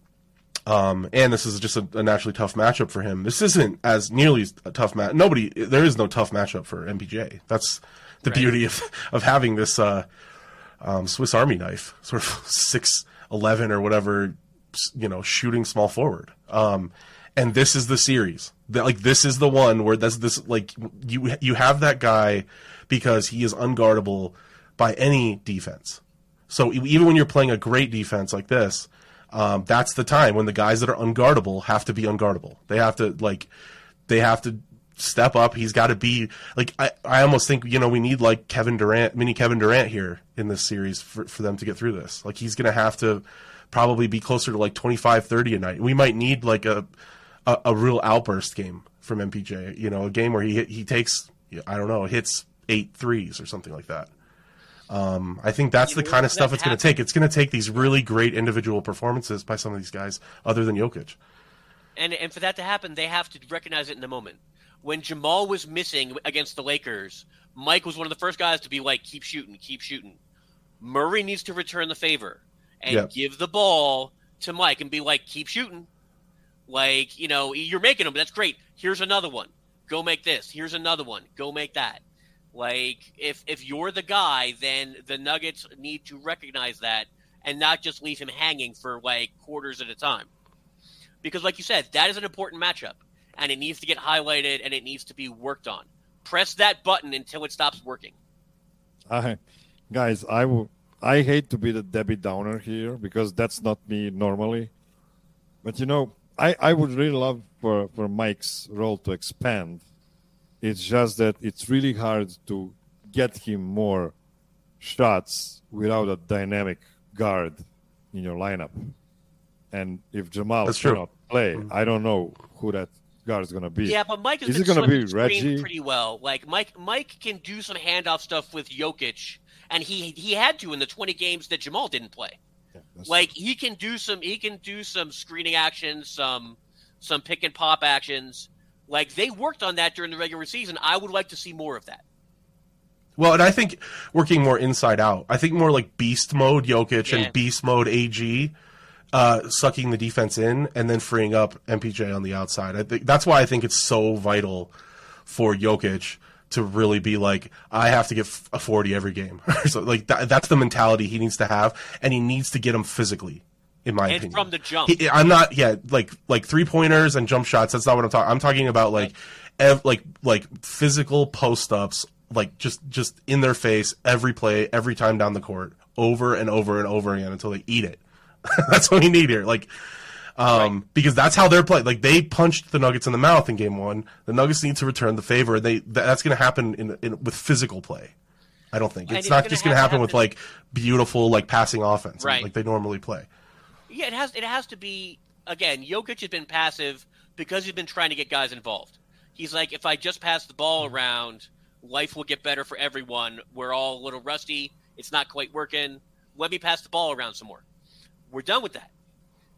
Um, and this is just a, a naturally tough matchup for him. This isn't as nearly a tough match. Nobody, there is no tough matchup for M P J. That's the Right. beauty of of having this uh, um, Swiss Army knife, sort of six eleven or whatever, you know, shooting small forward. Um, and this is the series. That, like this is the one where that's this like you you have that guy because he is unguardable by any defense. So even when you're playing a great defense like this. Um, that's the time when the guys that are unguardable have to be unguardable. They have to like, they have to step up. He's got to be like, I, I almost think, you know, we need like Kevin Durant, mini Kevin Durant here in this series for, for them to get through this. Like he's going to have to probably be closer to like twenty-five, thirty a night. We might need like a, a, a real outburst game from M P J, you know, a game where he, he takes, I don't know, hits eight threes or something like that. Um, I think that's You the know, kind of that stuff it's going to happen- take. It's going to take these really great individual performances by some of these guys, other than Jokic. And and for that to happen, they have to recognize it in the moment. When Jamal was missing against the Lakers, Mike was one of the first guys to be like, keep shooting, keep shooting. Murray needs to return the favor and Yep. give the ball to Mike and be like, keep shooting. Like, you know, you're making them, but that's great. Here's another one. Go make this. Here's another one. Go make that. Like, if if you're the guy, then the Nuggets need to recognize that and not just leave him hanging for, like, quarters at a time. Because, like you said, that is an important matchup, and it needs to get highlighted, and it needs to be worked on. Press that button until it stops working. I, guys, I w- I hate to be the Debbie Downer here because that's not me normally. But, you know, I, I would really love for, for Mike's role to expand. It's just that it's really hard to get him more shots without a dynamic guard in your lineup. And if Jamal That's true. cannot play, I don't know who that guard is going to be. Yeah, but Mike has Is been it gonna slipping be screen Reggie? pretty well. Like Mike, Mike can do some handoff stuff with Jokic, and he he had to in the twenty games that Jamal didn't play. Yeah, that's- Like he can do some he can do some screening actions, some some pick and pop actions. Like they worked on that during the regular season. I would like to see more of that. Well, and I think working more inside out. I think more like beast mode Jokic Yeah. and beast mode A G, uh, sucking the defense in and then freeing up M P J on the outside. I think that's why I think it's so vital for Jokic to really be like, I have to get f- a forty every game. So like that, that's the mentality he needs to have, and he needs to get them physically. In my And opinion, from the jump. He- I'm not, yeah, like like three pointers and jump shots. That's not what I'm talking. I'm talking about like, ev- like like physical post ups, like just just in their face every play, every time down the court, over and over and over again until they eat it. That's what we need here. Like, um, because that's how they're playing. Like they punched the Nuggets in the mouth in game one. The Nuggets need to return the favor. They that, that's going to happen in, in with physical play. I don't think And it's it's not gonna just going to have to happen with happen- like beautiful like passing offense Right. like they normally play. Yeah, it has it has to be again, Jokic has been passive because he's been trying to get guys involved. He's like, if I just pass the ball around, life will get better for everyone. We're all a little rusty. It's not quite working. Let me pass the ball around some more. We're done with that.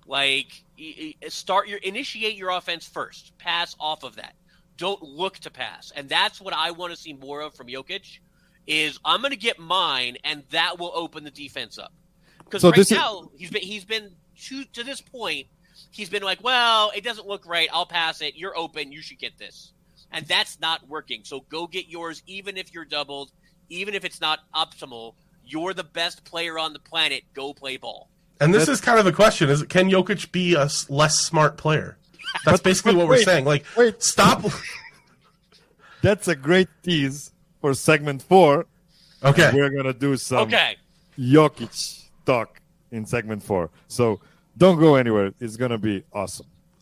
Like, start your initiate your offense first. Pass off of that. Don't look to pass. And that's what I want to see more of from Jokic is I'm going to get mine, and that will open the defense up. Because so right now, is... he's been, he's been to, to this point, he's been like, well, it doesn't look right. I'll pass it. You're open. You should get this. And that's not working. So go get yours, even if you're doubled, even if it's not optimal. You're the best player on the planet. Go play ball. And this That's... is kind of the question: is can Jokic be a less smart player? That's basically what wait, we're saying. Like, wait. stop. That's a great tease for segment four. Okay, we're gonna do some okay. Jokic talk in segment four. So don't go anywhere. It's gonna be awesome.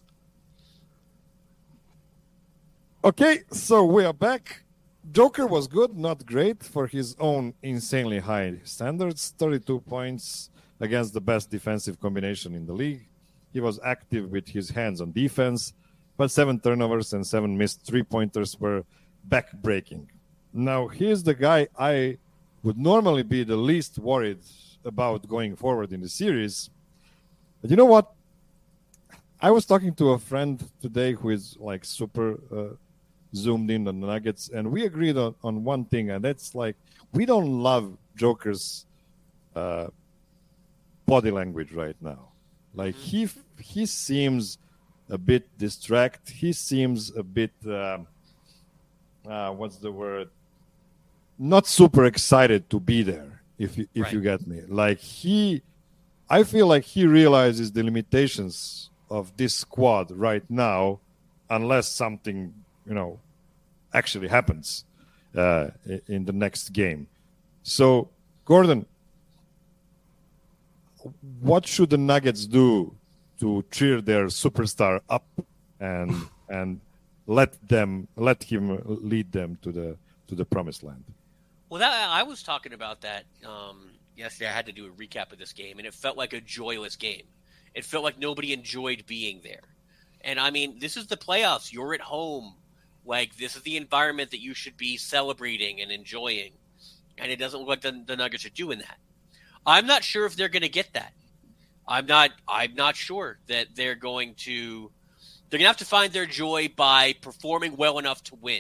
Okay, so we are back. Joker was good, not great for his own insanely high standards. thirty-two points against the best defensive combination in the league. He was active with his hands on defense, but seven turnovers and seven missed three-pointers were back-breaking. Now, here's the guy I would normally be the least worried about going forward in the series. But you know what? I was talking to a friend today who is like super uh, zoomed in on the Nuggets, and we agreed on, on one thing, and that's like we don't love Joker's uh, body language right now. Like he he seems a bit distracted. He seems a bit uh, uh, what's the word? Not super excited to be there. If you if right. you get me, like he, I feel like he realizes the limitations of this squad right now, unless something you know actually happens uh, in the next game. So Gordon, what should the Nuggets do to cheer their superstar up and and let them let him lead them to the to the promised land? Well, that, I was talking about that um, yesterday. I had to do a recap of this game, and it felt like a joyless game. It felt like nobody enjoyed being there. And I mean, this is the playoffs. You're at home. Like, this is the environment that you should be celebrating and enjoying. And it doesn't look like the, the Nuggets are doing that. I'm not sure if they're going to get that. I'm not I'm not sure that they're going to they're going to have to find their joy by performing well enough to win.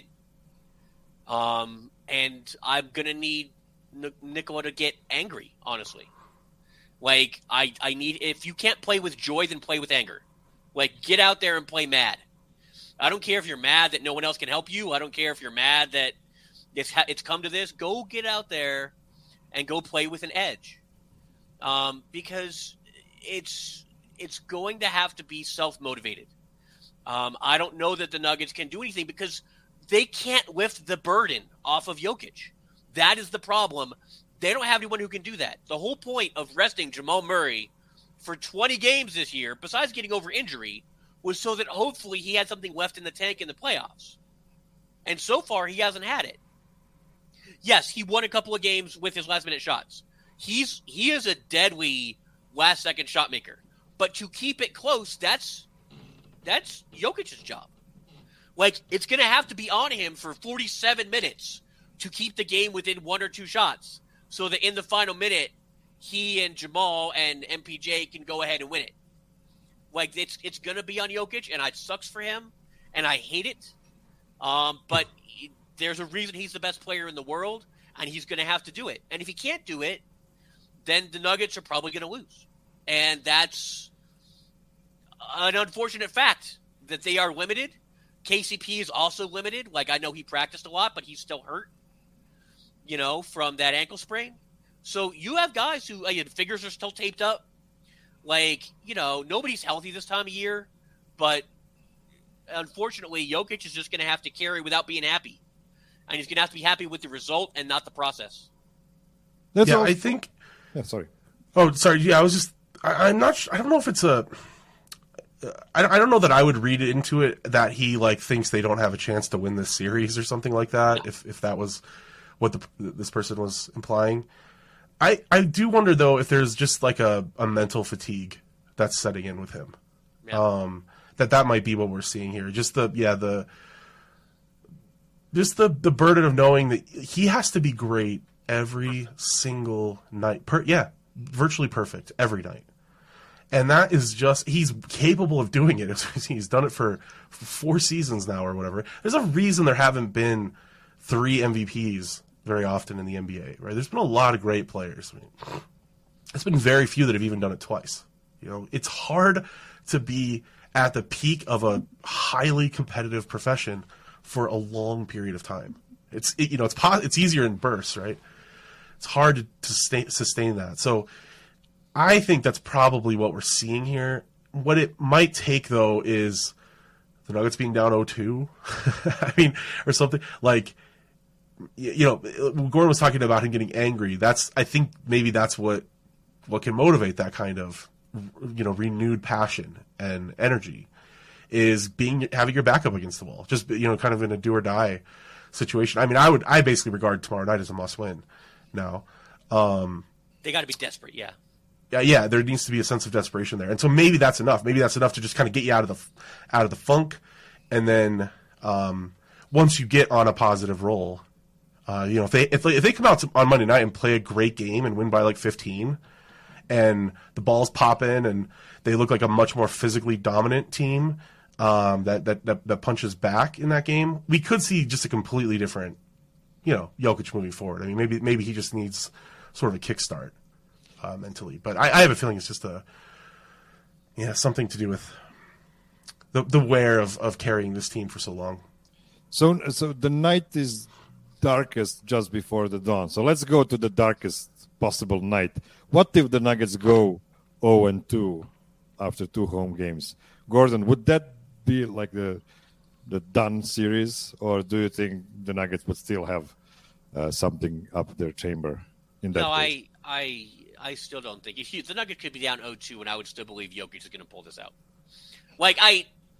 Um and I'm going to need N- Nikola to get angry, honestly. Like I I need if you can't play with joy, then play with anger. Like, get out there and play mad. I don't care if you're mad that no one else can help you. I don't care if you're mad that it's ha- it's come to this. Go get out there and go play with an edge. Um, because it's it's going to have to be self-motivated. Um, I don't know that the Nuggets can do anything because they can't lift the burden off of Jokic. That is the problem. They don't have anyone who can do that. The whole point of resting Jamal Murray for twenty games this year, besides getting over injury, was so that hopefully he had something left in the tank in the playoffs. And so far, he hasn't had it. Yes, he won a couple of games with his last-minute shots. He's he is a deadly last-second shot maker. But to keep it close, that's that's Jokic's job. Like, it's going to have to be on him for forty-seven minutes to keep the game within one or two shots so that in the final minute, he and Jamal and M P J can go ahead and win it. Like, it's it's going to be on Jokic, and it sucks for him, and I hate it. Um, but he, there's a reason he's the best player in the world, and he's going to have to do it. And if he can't do it, then the Nuggets are probably going to lose. And that's an unfortunate fact that they are limited. K C P is also limited. Like, I know he practiced a lot, but he's still hurt, you know, from that ankle sprain. So you have guys who, like, fingers are still taped up. Like, you know, nobody's healthy this time of year, but unfortunately, Jokic is just going to have to carry without being happy. And he's going to have to be happy with the result and not the process. That's yeah, all... I think... Yeah, sorry. Oh, sorry. Yeah, I was just... I, I'm not... Sh- I don't know if it's a... I, I don't know that I would read into it that he, like, thinks they don't have a chance to win this series or something like that, No. if if that was what the, this person was implying. I, I do wonder, though, if there's just, like, a, a mental fatigue that's setting in with him. Yeah. Um, that that might be what we're seeing here. Just the... Yeah, the... Just the, the burden of knowing that he has to be great every single night. Per, yeah, virtually perfect every night. And that is just, he's capable of doing it. He's done it for four seasons now or whatever. There's a reason there haven't been three M V Ps very often in the N B A, right? There's been a lot of great players. I mean, it's been very few that have even done it twice. You know, it's hard to be at the peak of a highly competitive profession for a long period of time. It's, it, you know, it's po- it's easier in bursts, right? It's hard to, to stay, sustain that. So I think that's probably what we're seeing here. What it might take, though, is the Nuggets being down oh two. I mean, or something like, you know, Gordon was talking about him getting angry. That's, I think maybe that's what, what can motivate that kind of, you know, renewed passion and energy, is being, having your back up against the wall, just, you know, kind of in a do or die situation. I mean, I would, I basically regard tomorrow night as a must win now. Um, they got to be desperate. Yeah. Yeah, yeah, there needs to be a sense of desperation there, and so maybe that's enough. Maybe that's enough to just kind of get you out of the out of the funk, and then um, once you get on a positive roll, uh, you know, if they if they, if they come out on Monday night and play a great game and win by like fifteen, and the balls pop in and they look like a much more physically dominant team um, that, that that that punches back in that game, we could see just a completely different, you know, Jokic moving forward. I mean, maybe maybe he just needs sort of a kickstart. Uh, mentally, but I, I have a feeling it's just a, yeah, something to do with the the wear of, of carrying this team for so long. So, so the night is darkest just before the dawn. So let's go to the darkest possible night. What if the Nuggets go oh and two after two home games? Gordon, would that be like the the done series, or do you think the Nuggets would still have uh, something up their chamber in that No, case? I I. I still don't think if you, the Nuggets could be down oh two, and I would still believe Jokic is going to pull this out. Like I,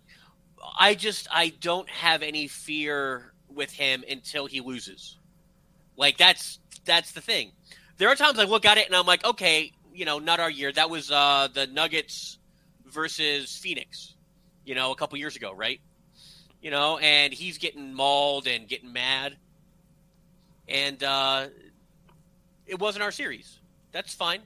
I just I don't have any fear with him until he loses. Like that's that's the thing. There are times I look at it and I'm like, okay, you know, not our year. That was uh, the Nuggets versus Phoenix, you know, a couple years ago, right? You know, and he's getting mauled and getting mad, and uh, it wasn't our series. That's fine.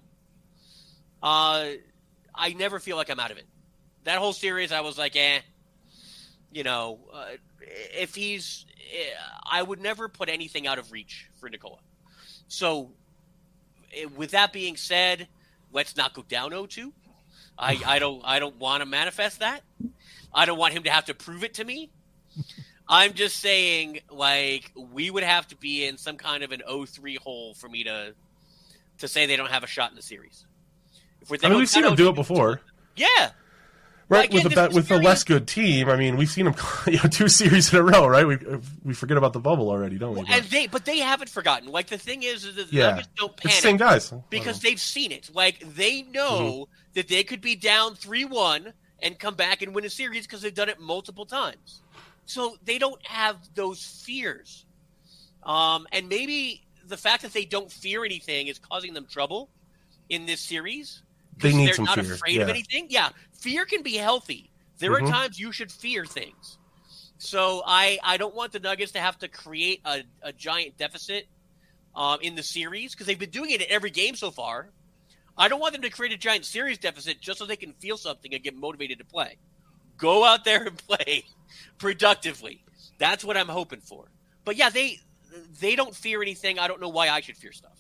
Uh, I never feel like I'm out of it. That whole series, I was like, eh. You know, uh, if he's, I would never put anything out of reach for Nikola. So, with that being said, let's not go down oh two. I, I don't, I don't want to manifest that. I don't want him to have to prove it to me. I'm just saying, like, we would have to be in some kind of an oh three hole for me to. to say they don't have a shot in the series. If we're I mean, we've seen them do it before. Yeah. Right, well, again, with a, with very... a less good team. I mean, we've seen them you know, two series in a row, right? We we forget about the bubble already, don't we? Well, and they, but they haven't forgotten. Like, the thing is, is that the yeah. Nuggets don't panic. It's the same guys. Because they've seen it. Like, they know mm-hmm. that they could be down three one and come back and win a series because they've done it multiple times. So they don't have those fears. Um, and maybe the fact that they don't fear anything is causing them trouble in this series. They need they're some not fear. afraid yeah. of anything. Yeah, fear can be healthy. There mm-hmm. are times you should fear things. So I, I don't want the Nuggets to have to create a, a giant deficit um, in the series because they've been doing it in every game so far. I don't want them to create a giant series deficit just so they can feel something and get motivated to play. Go out there and play productively. That's what I'm hoping for. But yeah, they they don't fear anything. I don't know why I should fear stuff.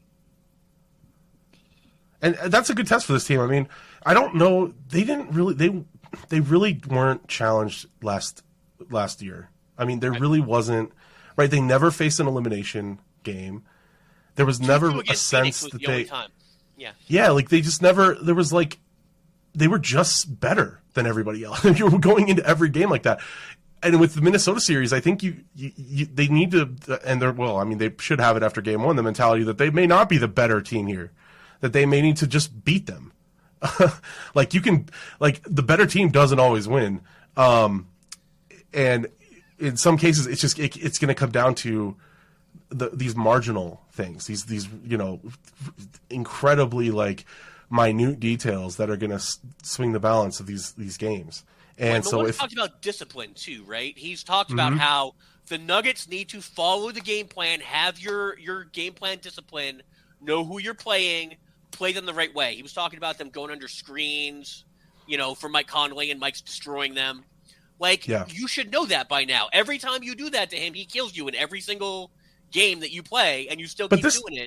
And that's a good test for this team. I mean, I don't know. They didn't really. They they really weren't challenged last last year. I mean, there really wasn't. Right? They never faced an elimination game. There was never a sense that the they. Time. Yeah. Yeah, like they just never. There was like, they were just better than everybody else. You were going into every game like that. And with the Minnesota series, I think you, you, you they need to, and they're well. I mean, they should have it after game one. The mentality that they may not be the better team here, that they may need to just beat them. Like you can, like the better team doesn't always win, um, and in some cases, it's just it, it's going to come down to the, these marginal things, these these you know, incredibly like minute details that are going to s- swing the balance of these these games. And well, so if talked about discipline too, right? He's talked about mm-hmm. how the Nuggets need to follow the game plan, have your your game plan discipline, know who you're playing, play them the right way. He was talking about them going under screens, you know, for Mike Conley, and Mike's destroying them. Like, yeah. you should know that by now. Every time you do that to him, he kills you in every single game that you play, and you still but keep this, doing it.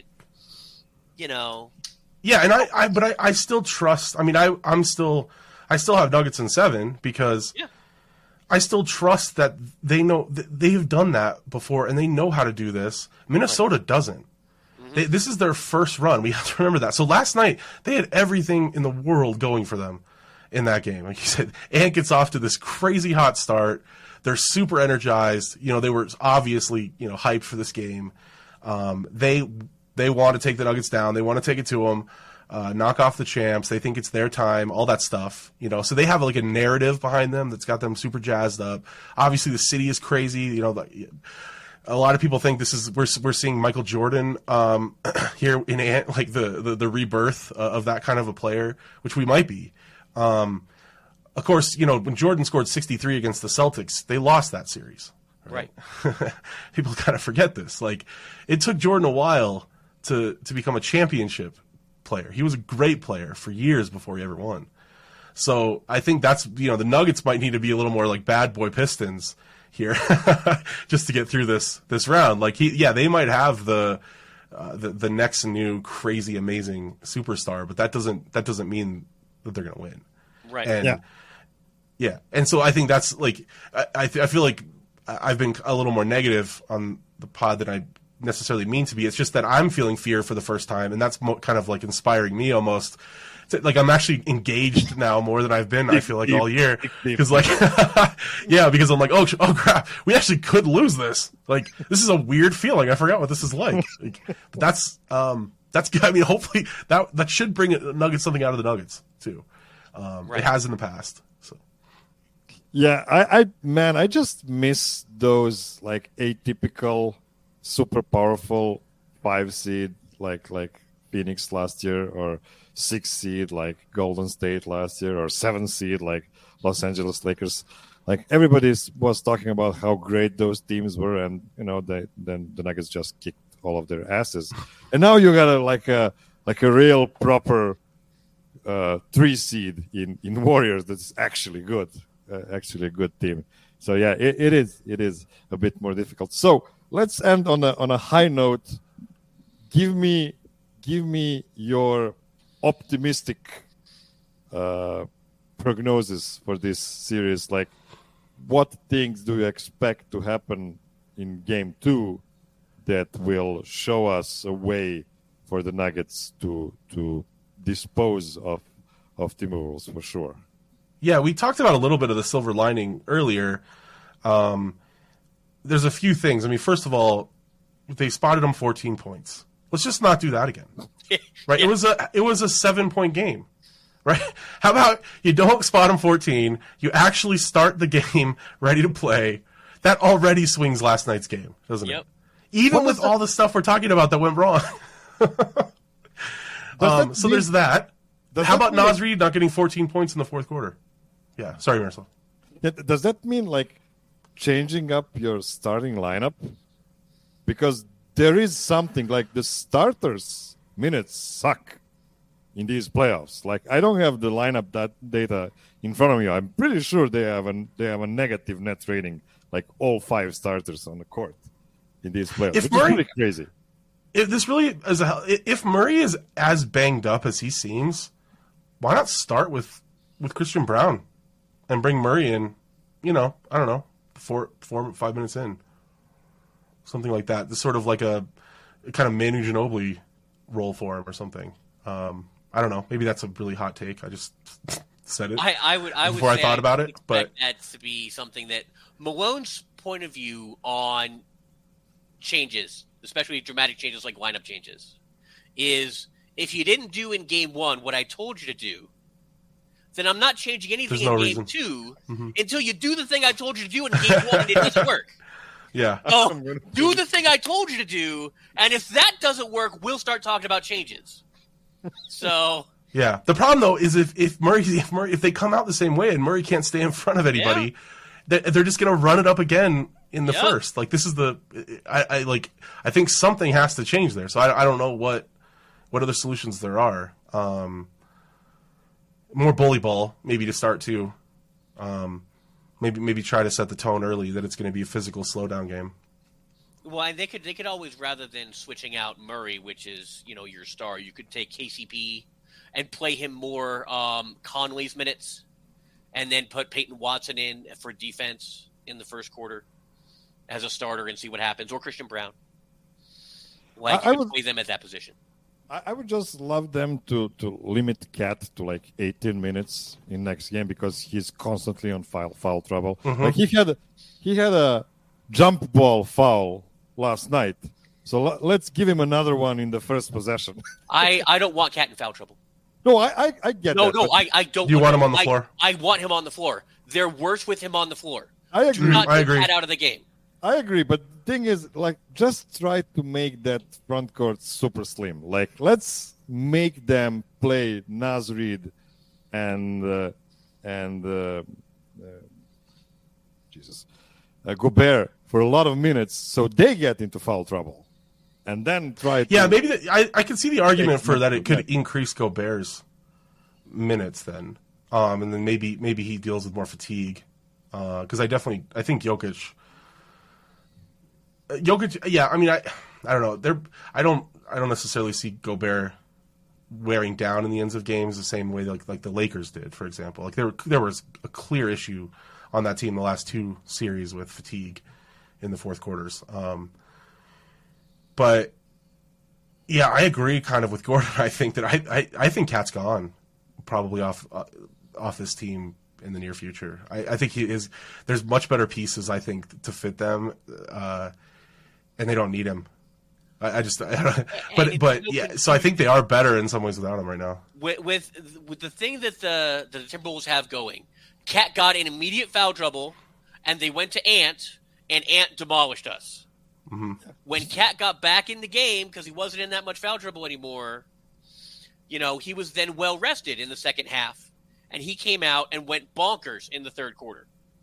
You know. Yeah, and I, I but I, I still trust. I mean, I, I'm still, I still have Nuggets in seven because yeah. I still trust that they know they've done that before and they know how to do this. Minnesota right. doesn't. Mm-hmm. They, this is their first run. We have to remember that. So last night they had everything in the world going for them in that game. Like you said, Ant gets off to this crazy hot start. They're super energized. You know, they were obviously, you know, hyped for this game. Um, they they want to take the Nuggets down. They want to take it to them, uh, knock off the champs. They think it's their time, all that stuff. You know, so they have like a narrative behind them that's got them super jazzed up. Obviously, the city is crazy. You know, the, a lot of people think this is we're we're seeing Michael Jordan um, here in Ant, like the, the the rebirth uh, of that kind of a player, which we might be. Um, of course, you know, when Jordan scored sixty-three against the Celtics, they lost that series. Right. right. People kind of forget this. Like, it took Jordan a while to, to become a championship player. He was a great player for years before he ever won. So I think that's, you know, the Nuggets might need to be a little more like bad boy Pistons here just to get through this, this round. Like, he, yeah, they might have the, uh, the, the next new crazy, amazing superstar, but that doesn't, that doesn't mean that they're going to win. Right. And, yeah. Yeah. And so I think that's like, I, I, th- I feel like I've been a little more negative on the pod than I necessarily mean to be. It's just that I'm feeling fear for the first time, and that's mo- kind of like inspiring me almost. To, like, I'm actually engaged now more than I've been, I feel like, all year. Because, like, yeah, because I'm like, oh, oh, crap, we actually could lose this. Like, this is a weird feeling. I forgot what this is like. like but that's, um, that's, I mean, hopefully that, that should bring Nuggets something out of the Nuggets, too. Um, right. It has in the past. So. Yeah, I, I, man, I just miss those, like, atypical, super powerful five seed, like, like Phoenix last year, or six seed like Golden State last year, or seven seed like Los Angeles Lakers. Like, everybody was talking about how great those teams were, and you know, they, then the Nuggets just kicked all of their asses. And now you got a like a like a real proper uh, three seed in, in Warriors that's actually good, uh, actually a good team. So yeah, it, it is it is a bit more difficult. So let's end on a on a high note. Give me give me your optimistic uh, prognosis for this series. Like, what things do you expect to happen in game two that will show us a way for the Nuggets to to dispose of of Timberwolves for sure? Yeah, we talked about a little bit of the silver lining earlier. Um, there's a few things. I mean, first of all, they spotted them fourteen points. Let's just not do that again. Right? Yeah. It was a it was a seven point game. Right? How about you don't spot them fourteen, you actually start the game ready to play. That already swings last night's game, doesn't Yep. it? Even What with was that? all the stuff we're talking about that went wrong. um, that so mean- there's that. Does How that about mean- Naz Reid not getting fourteen points in the fourth quarter? Yeah, sorry, Marcel. Yeah, does that mean like changing up your starting lineup? Because there is something like the starters' minutes suck in these playoffs. Like, I don't have the lineup that data in front of me. I'm pretty sure they have an they have a negative net rating, like all five starters on the court in these playoffs. If Which Murray- is really crazy. If this really is a, if Murray is as banged up as he seems, why not start with, with Christian Brown and bring Murray in? You know, I don't know, four, four, five minutes in, something like that. This sort of like a, a kind of Manu Ginobili role for him or something. Um, I don't know. Maybe that's a really hot take. I just said it I, I would I would before I say thought about would it, but expect that to be something that Malone's point of view on changes, especially dramatic changes like lineup changes, is if you didn't do in game one what I told you to do, then I'm not changing anything There's in no game reason. two Mhm. until you do the thing I told you to do in game one and it doesn't work. yeah, So do the thing I told you to do, and if that doesn't work, we'll start talking about changes. So yeah. The problem though is if if Murray if Murray if they come out the same way and Murray can't stay in front of anybody, they, they're just going to run it up again in the Yeah. first. Like, this is the I, I like I think something has to change there. So I I don't know what what other solutions there are, Um, more bully ball, maybe to start too. Um, maybe maybe try to set the tone early that it's going to be a physical slowdown game. Well, and they could they could always, rather than switching out Murray, which is, you know, your star, you could take K C P and play him more um, Conley's minutes, and then put Peyton Watson in for defense in the first quarter as a starter and see what happens, or Christian Brown. Like, I, I you could would, play them at that position. I, I would just love them to, to limit Cat to like eighteen minutes in next game because he's constantly on foul, foul trouble. Mm-hmm. Like he had he had a jump ball foul last night, so l- let's give him another one in the first possession. I, I don't want Cat in foul trouble. No, I I, I get No, that. no, but I, I don't. You want him on the I- floor? I want him on the floor. They're worse with him on the floor. I Do agree. not I take agree. Cat out of the game. I agree, but the thing is, like, just try to make that front court super slim. Like, let's make them play Naz Reid and uh, and uh, uh, Jesus uh, Gobert for a lot of minutes, so they get into foul trouble, and then try. To, Yeah, maybe the, I I can see the argument Take for that it could back. increase Gobert's minutes then, um, and then maybe maybe he deals with more fatigue, because I definitely I think Jokic. Uh, Jokic, yeah, I mean, I, I don't know. They're, I don't, I don't necessarily see Gobert wearing down in the ends of games the same way like like the Lakers did, for example. Like there, there was a clear issue on that team the last two series with fatigue in the fourth quarters. Um, but yeah, I agree kind of with Gordon. I think that I, I, I think Cat's gone probably off uh, off this team in the near future. I, I think he is. There's much better pieces I think to fit them. Uh, and they don't need him. I, I just, I don't, but it's but so yeah. So I think they are better in some ways without him right now. With, with with the thing that the the Timberwolves have going, Cat got in immediate foul trouble, and they went to Ant, and Ant demolished us. Mm-hmm. When Cat got back in the game because he wasn't in that much foul trouble anymore, you know, he was then well rested in the second half, and he came out and went bonkers in the third quarter.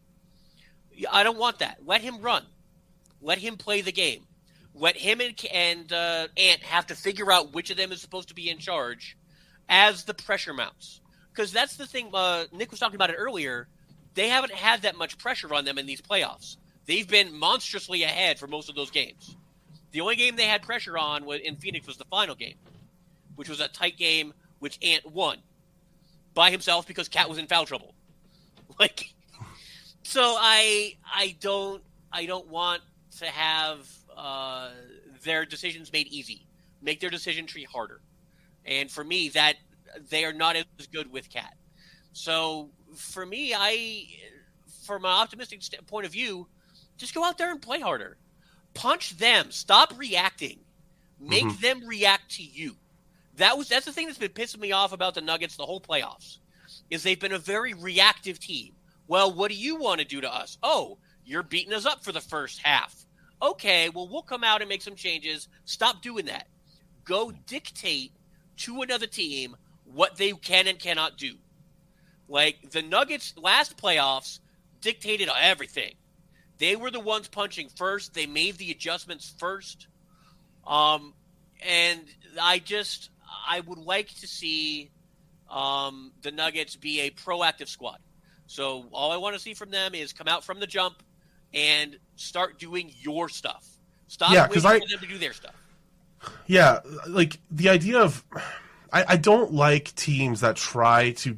I don't want that. Let him run. Let him play the game. Let him and, and uh, Ant have to figure out which of them is supposed to be in charge as the pressure mounts. Because that's the thing, uh, Nick was talking about it earlier. They haven't had that much pressure on them in these playoffs. They've been monstrously ahead for most of those games. The only game they had pressure on was, in Phoenix was the final game, which was a tight game, which Ant won by himself because Cat was in foul trouble. Like, so I I don't I don't want to have uh, their decisions made easy, make their decision tree harder, and for me, that they are not as good with Cat. So for me, I, from an optimistic st- point of view, just go out there and play harder, punch them, stop reacting, make Mm-hmm. them react to you. That was that's the thing that's been pissing me off about the Nuggets the whole playoffs, is they've been a very reactive team. Well, what do you want to do to us? Oh, you're beating us up for the first half. Okay, well, we'll come out and make some changes. Stop doing that. Go dictate to another team what they can and cannot do. Like, the Nuggets last playoffs dictated everything. They were the ones punching first. They made the adjustments first. Um, and I just, I would like to see um, the Nuggets be a proactive squad. So all I want to see from them is come out from the jump and start doing your stuff. Stop Yeah, waiting 'cause I- for them to do their stuff. Yeah, like the idea of, I, I don't like teams that try to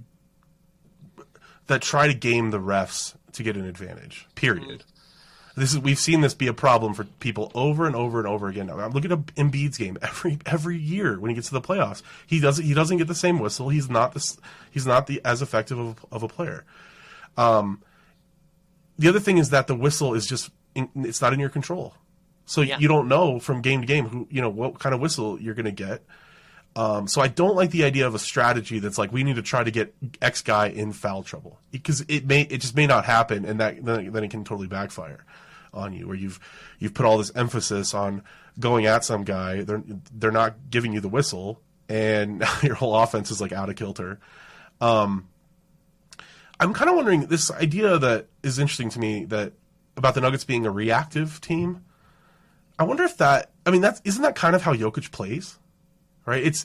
that try to game the refs to get an advantage. Period. This is we've seen this be a problem for people over and over and over again. I'm looking at Embiid's game every every year when he gets to the playoffs. He doesn't he doesn't get the same whistle. He's not this he's not the as effective of, of a player. Um, the other thing is that the whistle is just in, it's not in your control. So Yeah. you don't know from game to game who you know what kind of whistle you're going to get. Um, so I don't like the idea of a strategy that's like we need to try to get X guy in foul trouble because it may it just may not happen, and that then, then it can totally backfire on you. Where you've you've put all this emphasis on going at some guy, they're they're not giving you the whistle, and your whole offense is like out of kilter. Um, I'm kind of wondering this idea that is interesting to me that about the Nuggets being a reactive team. I wonder if that I mean that's isn't that kind of how Jokic plays? Right, it's it's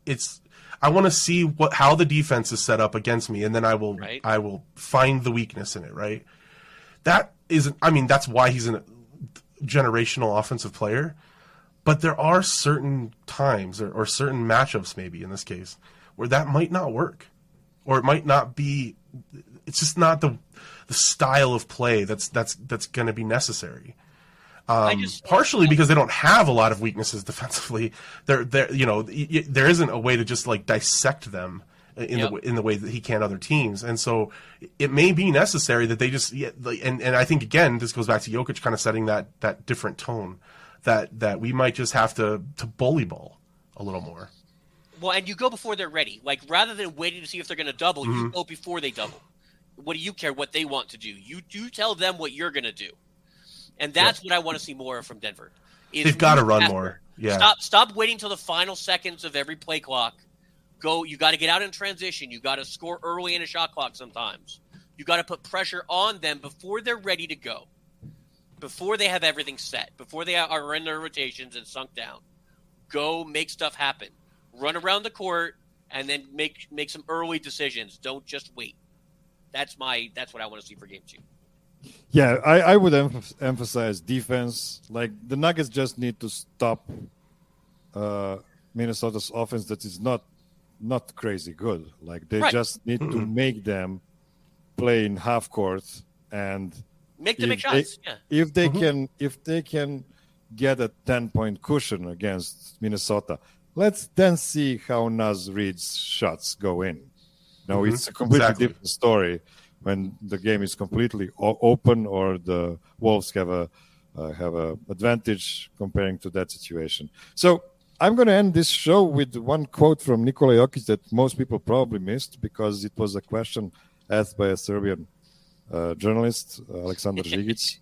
it's I want to see what how the defense is set up against me, and then I will Right. I will find the weakness in it. Right. That isn't. I mean, that's why he's a generational offensive player. But there are certain times or, or certain matchups, maybe in this case, where that might not work, or it might not be. It's just not the the style of play that's that's that's going to be necessary. Um, just- partially because they don't have a lot of weaknesses defensively. There, there, you know, y- y- there isn't a way to just like dissect them in Yep. the in the way that he can other teams, and so it may be necessary that they just. Yeah, like, and and I think again, this goes back to Jokic kind of setting that that different tone. That, that we might just have to, to bully ball a little more. Well, and you go before they're ready. Like, rather than waiting to see if they're going to double, Mm-hmm. you go before they double. What do you care what they want to do? You do tell them what you're going to do. And that's what I want to see more of from Denver. is They've got to move run faster. more. Yeah. Stop stop waiting till the final seconds of every play clock. Go. You got to get out in transition. You got to score early in a shot clock sometimes. You got to put pressure on them before they're ready to go. Before they have everything set, before they are in their rotations and sunk down, go make stuff happen. Run around the court and then make make some early decisions. Don't just wait. That's my that's what I want to see for game two. Yeah, I, I would emph- emphasize defense. Like the Nuggets just need to stop uh, Minnesota's offense that is not not crazy good. Like they Right. just need to make them play in half court and Make them make if they, shots. Yeah. if they can if they can get a ten point cushion against Minnesota, let's then see how Naz Reid's shots go in. No, Mhm. it's a completely Exactly. different story when the game is completely o- open or the Wolves have a uh, have a advantage comparing to that situation. So I'm going to end this show with one quote from Nikola Jokic that most people probably missed because it was a question asked by a Serbian uh, journalist, uh, Aleksandar Žigić,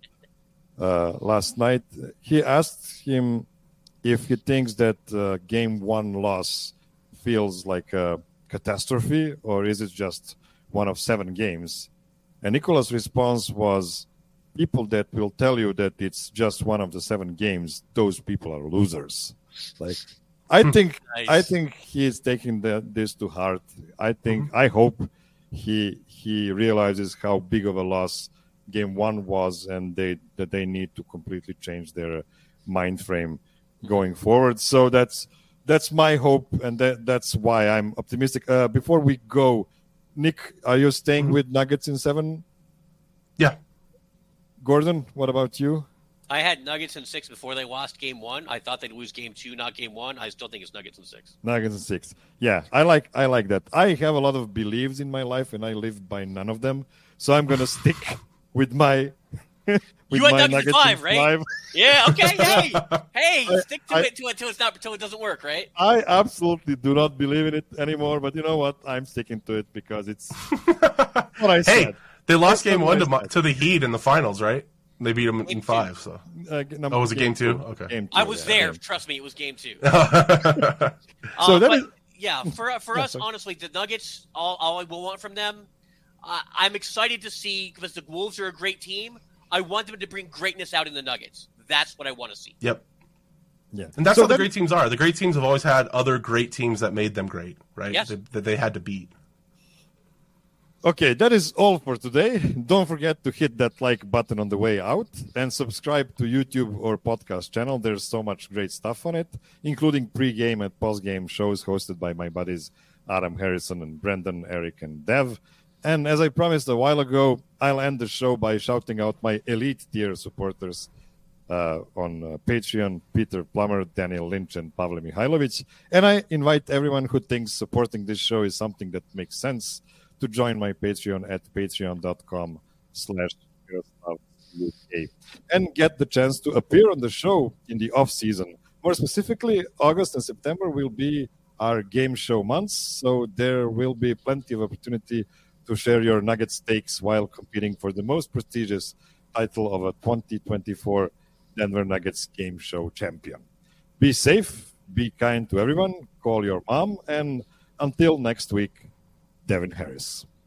uh, last night. He asked him if he thinks that uh, game one loss feels like a catastrophe or is it just one of seven games? And Nikola's response was, people that will tell you that it's just one of the seven games, those people are losers. Like, I think, Nice. I think he is taking the, this to heart. I think, I hope he he realizes how big of a loss game one was, and they that they need to completely change their mind frame going forward. So that's that's my hope, and that, that's why I'm optimistic. Uh, before we go, Nick, are you staying with Nuggets in seven? Yeah. Gordon, what about you? I had Nuggets in six before they lost game one. I thought they'd lose game two, not game one. I still think it's Nuggets in six. Nuggets in six. Yeah, I like I like that. I have a lot of beliefs in my life, and I live by none of them. So I'm gonna stick with my. with You had my Nuggets in Nuggets five, right? five. Yeah. Okay. Hey, hey, I- stick to I- it until until it's not until it doesn't work, right? I absolutely do not believe in it anymore. But you know what? I'm sticking to it because it's what I Hey, said. they lost That's game what one I to, said. to the Heat in the finals, right? They beat them Game in two. five. So Uh, number- Oh, was it game two? Okay. Game two, I was yeah, there. game- Trust me, it was game two. So Uh, that but, is- yeah, for for Yeah, us, sorry. honestly, the Nuggets, all, all I will want from them, uh, I'm excited to see because the Wolves are a great team. I want them to bring greatness out in the Nuggets. That's what I want to see. Yep. Yeah, And that's So how the that- great teams are. The great teams have always had other great teams that made them great, right? Yes. That, that they had to beat. Okay, that is all for today. Don't forget to hit that like button on the way out and subscribe to YouTube or podcast channel. There's so much great stuff on it, including pre-game and post-game shows hosted by my buddies Adam Harrison and Brendan, Eric, and Dev. And as I promised a while ago, I'll end the show by shouting out my elite tier supporters uh, on uh, Patreon, Peter Plummer, Daniel Lynch, and Pavle Mihailovic. And I invite everyone who thinks supporting this show is something that makes sense to join my Patreon at patreon.com slash UK and get the chance to appear on the show in the off season. More specifically, August and September will be our game show months, so there will be plenty of opportunity to share your Nuggets takes while competing for the most prestigious title of a twenty twenty-four Denver Nuggets game show champion. Be safe, be kind to everyone, call your mom, and until next week, Devin Harris.